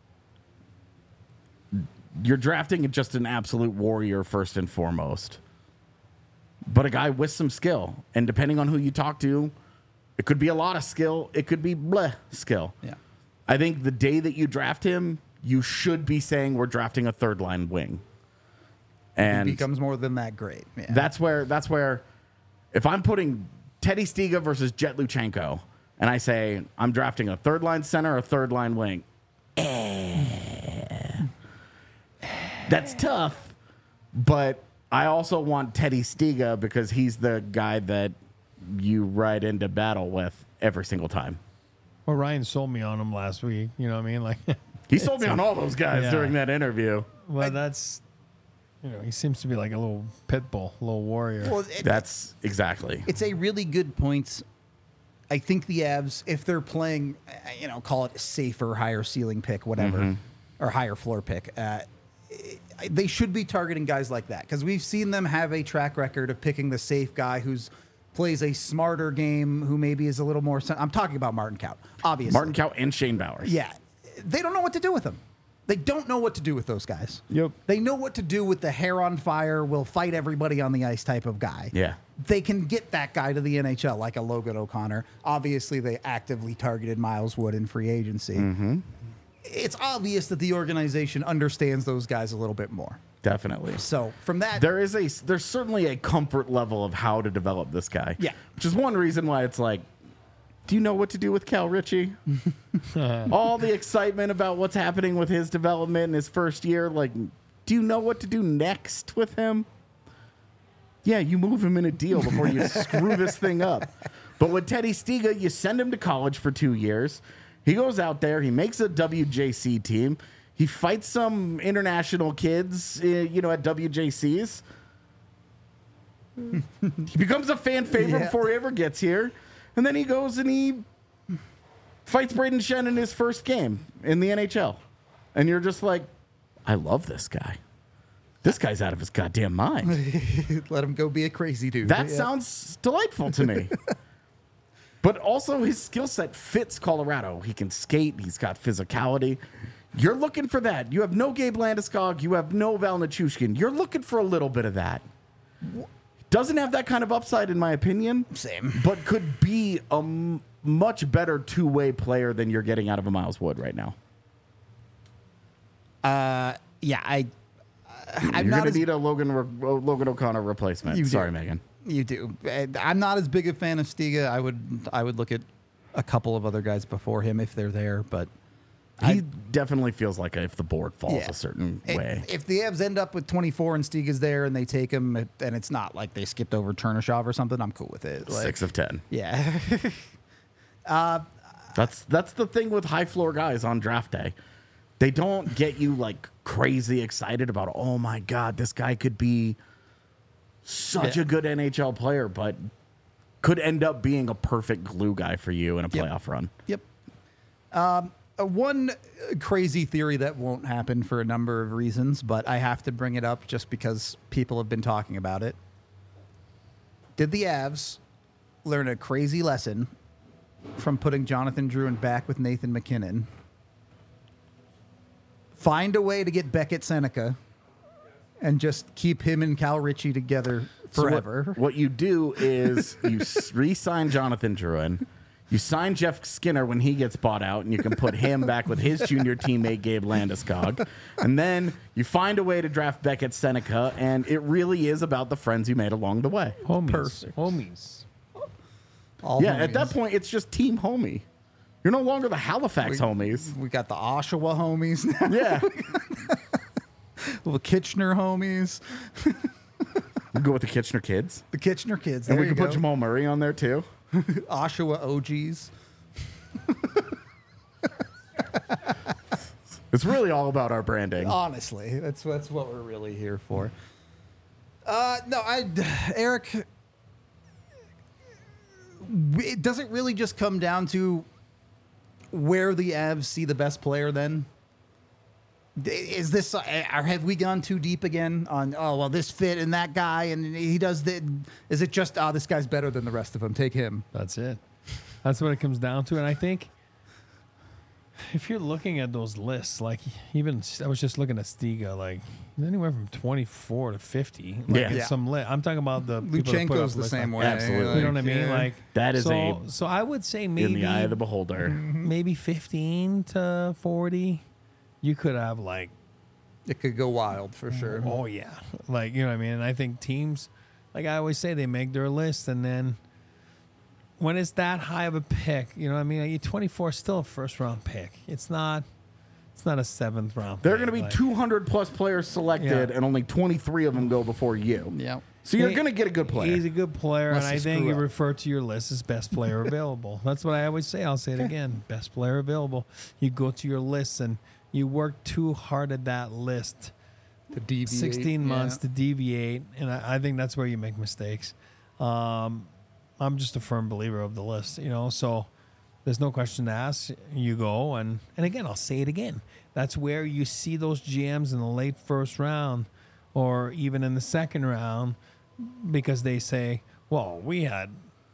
You're drafting just an absolute warrior first and foremost, but a guy with some skill. And depending on who you talk to, it could be a lot of skill. It could be bleh skill. yeah. I think the day that you draft him, you should be saying we're drafting a third line wing. And He becomes more than that great. Yeah. that's where that's where if I'm putting Teddy Stiga versus Jet Luchenko and I say I'm drafting a third line center, a third line wing, eh, that's tough. But I also want Teddy Stiga because he's the guy that you ride into battle with every single time. well, Ryan sold me on him last week. You know what I mean? Like, He sold me on all those guys Yeah. during that interview. well, that's you know, he seems to be like a little pit bull, a little warrior. Well, it- That's exactly. it's a really good point I think the Avs, if they're playing, uh, you know, call it a safer, higher ceiling pick, whatever, or higher floor pick, uh, they should be targeting guys like that because we've seen them have a track record of picking the safe guy who's plays a smarter game, who maybe is a little more. I'm talking about Martin Kaut, obviously. Martin Kaut and Shane Bowers. Yeah, they don't know what to do with them. They don't know what to do with those guys. Yep. They know what to do with the hair on fire, will fight everybody on the ice type of guy. Yeah. They can get that guy to the N H L like a Logan O'Connor. Obviously, they actively targeted Miles Wood in free agency. Mm-hmm. It's obvious that the organization understands those guys a little bit more. Definitely. So from that, There is a there's certainly a comfort level of how to develop this guy. Yeah. Which is one reason why it's like, do you know what to do with Cal Ritchie? All the excitement about what's happening with his development in his first year, like, do you know what to do next with him? Yeah, you move him in a deal before you screw this thing up. But with Teddy Stiga, you send him to college for two years. He goes out there, he makes a W J C team. He fights some international kids, uh, you know, at W J Cs. He becomes a fan favorite Yeah. before he ever gets here. And then he goes and he fights Braden Shen in his first game in the N H L. And you're just like, I love this guy. This guy's out of his goddamn mind. let him go be a crazy dude. That Yeah. sounds delightful to me. But also his skill set fits Colorado. He can skate. He's got physicality. You're looking for that. You have no Gabe Landeskog. You have no Val Nichushkin. You're looking for a little bit of that. Doesn't have that kind of upside, in my opinion. Same. But could be a m- much better two-way player than you're getting out of a Miles Wood right now. Uh, yeah, I. I'm you're not going to as, need a Logan Re- uh, Logan O'Connor replacement. You do. Sorry, Megan. You do. And I'm not as big a fan of Stiga. I would. I would look at a couple of other guys before him if they're there, but. He I- definitely feels like if the board falls Yeah. a certain If- way. If the Avs end up with twenty-four and Stiga's there and they take him, and it's not like they skipped over Chernyshov or something, I'm cool with it. Like, Six of ten. Yeah. That's that's the thing with high floor guys on draft day. They don't get you like crazy excited about, oh my God, this guy could be such Yeah. a good N H L player, but could end up being a perfect glue guy for you in a Yep. playoff run. Yep. Um, uh, one uh, crazy theory that won't happen for a number of reasons, but I have to bring it up just because people have been talking about it. Did the Avs learn a crazy lesson from putting Jonathan Drouin back with Nathan McKinnon? Find a way to get Beckett Seneca and just keep him and Cal Ritchie together So what- forever. what, you do is you s- re-sign Jonathan Drouin. You sign Jeff Skinner when he gets bought out, and you can put him back with his junior teammate, Gabe Landeskog. And then you find a way to draft Beckett Seneca, and it really is about the friends you made along the way. Homies. Perfect. Homies. All Yeah, at that homies. point, it's just team homie. You're no longer the Halifax homies. We got the Oshawa homies now. Yeah. The Kitchener homies. We go with the Kitchener kids. The Kitchener kids. And There we you can put go. Jamal Murray on there, too. Oshawa O Gs. It's really all about our branding. Honestly, that's that's what we're really here for. Uh, no, I, Eric. It doesn't really just come down to where the Avs see the best player. Then is this? Or have we gone too deep again on? Oh well, this fit and that guy, and he does the. Is it just? Oh, this guy's better than the rest of them. Take him. That's it. That's what it comes down to. And I think if you're looking at those lists, like even I was just looking at Stiga, like anywhere from twenty-four to fifty. Like Yeah. it's Yeah. some lit. I'm talking about the people that put up Luchenko's the lists same like- way. Absolutely. You know what I mean? yeah. Like That is so, a- So I would say maybe in the eye of the beholder. maybe fifteen to forty. You could have like It could go wild for sure. oh yeah, like you know what I mean. And I think teams, like I always say, they make their list, and then when it's that high of a pick, you know what I mean. Like, twenty-four is still a first round pick. It's not. It's not a seventh round. There are pick. going to be Like, two hundred plus players selected, Yeah. and only twenty-three of them go before you. Yeah. So you're he- going to get a good player. He's a good player, Unless and I you think screw you up. refer to your list as best player available. That's what I always say. I'll say it again: best player available. You go to your list and you work too hard at that list. To deviate. sixteen months yeah. to deviate, and I, I think that's where you make mistakes. Um, I'm just a firm believer of the list, you know. So there's no question to ask. You go, and and again, I'll say it again. That's where you see those G Ms in the late first round, or even in the second round, because they say, "Well, we had,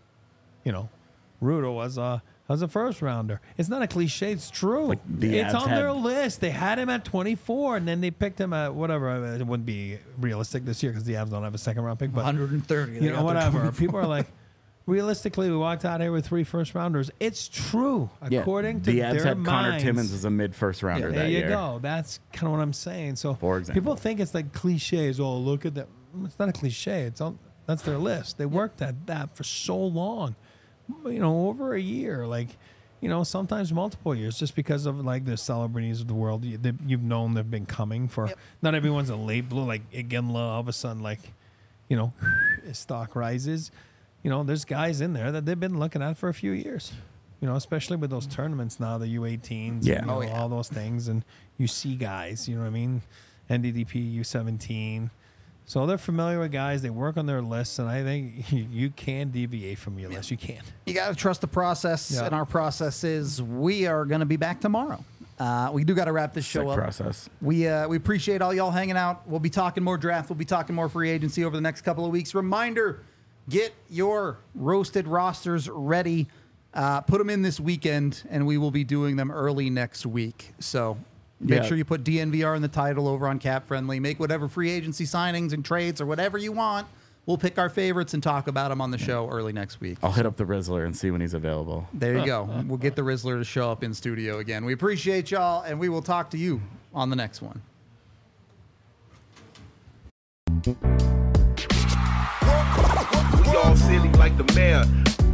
you know, Rudo was a was a first rounder." It's not a cliche; it's true. Like the it's Avs on had- their list. They had him at twenty-four, and then they picked him at whatever. It wouldn't be realistic this year because the Avs don't have a second round pick, but one hundred thirty. you know, whatever. People are like, realistically, we walked out here with three first rounders. It's true, Yeah. according to the Avs their had Connor minds. Timmins as a mid first rounder There that you year. go. That's kind of what I'm saying. So For example. people think it's like cliches. Oh, look at that. It's not a cliche. It's on, that's their list. They worked at that for so long, you know, over a year. Like, you know, sometimes multiple years, just because of like the celebrities of the world. You, they, you've known they've been coming for. Yep. Not everyone's a late blue. Like Iginla, all of a sudden, like, you know, his stock rises. You know, there's guys in there that they've been looking at for a few years. You know, especially with those tournaments now, the U eighteens, Yeah. you know, Oh, yeah. all those things, and you see guys. You know what I mean? N D D P, U seventeen. So they're familiar with guys. They work on their lists, and I think you, you can deviate from your list. You can. You got to trust the process, Yeah. and our process is we are going to be back tomorrow. Uh, we do got to wrap this show Sick up. process. We uh, we appreciate all y'all hanging out. We'll be talking more draft. We'll be talking more free agency over the next couple of weeks. Reminder: get your roasted rosters ready. Uh, put them in this weekend, and we will be doing them early next week. So make Yeah. sure you put D N V R in the title over on Cap Friendly. Make whatever free agency signings and trades or whatever you want. We'll pick our favorites and talk about them on the show early next week. I'll hit up the Rizzler and see when he's available. There you go. We'll get the Rizzler to show up in studio again. We appreciate y'all, and we will talk to you on the next one. We all silly like the mayor.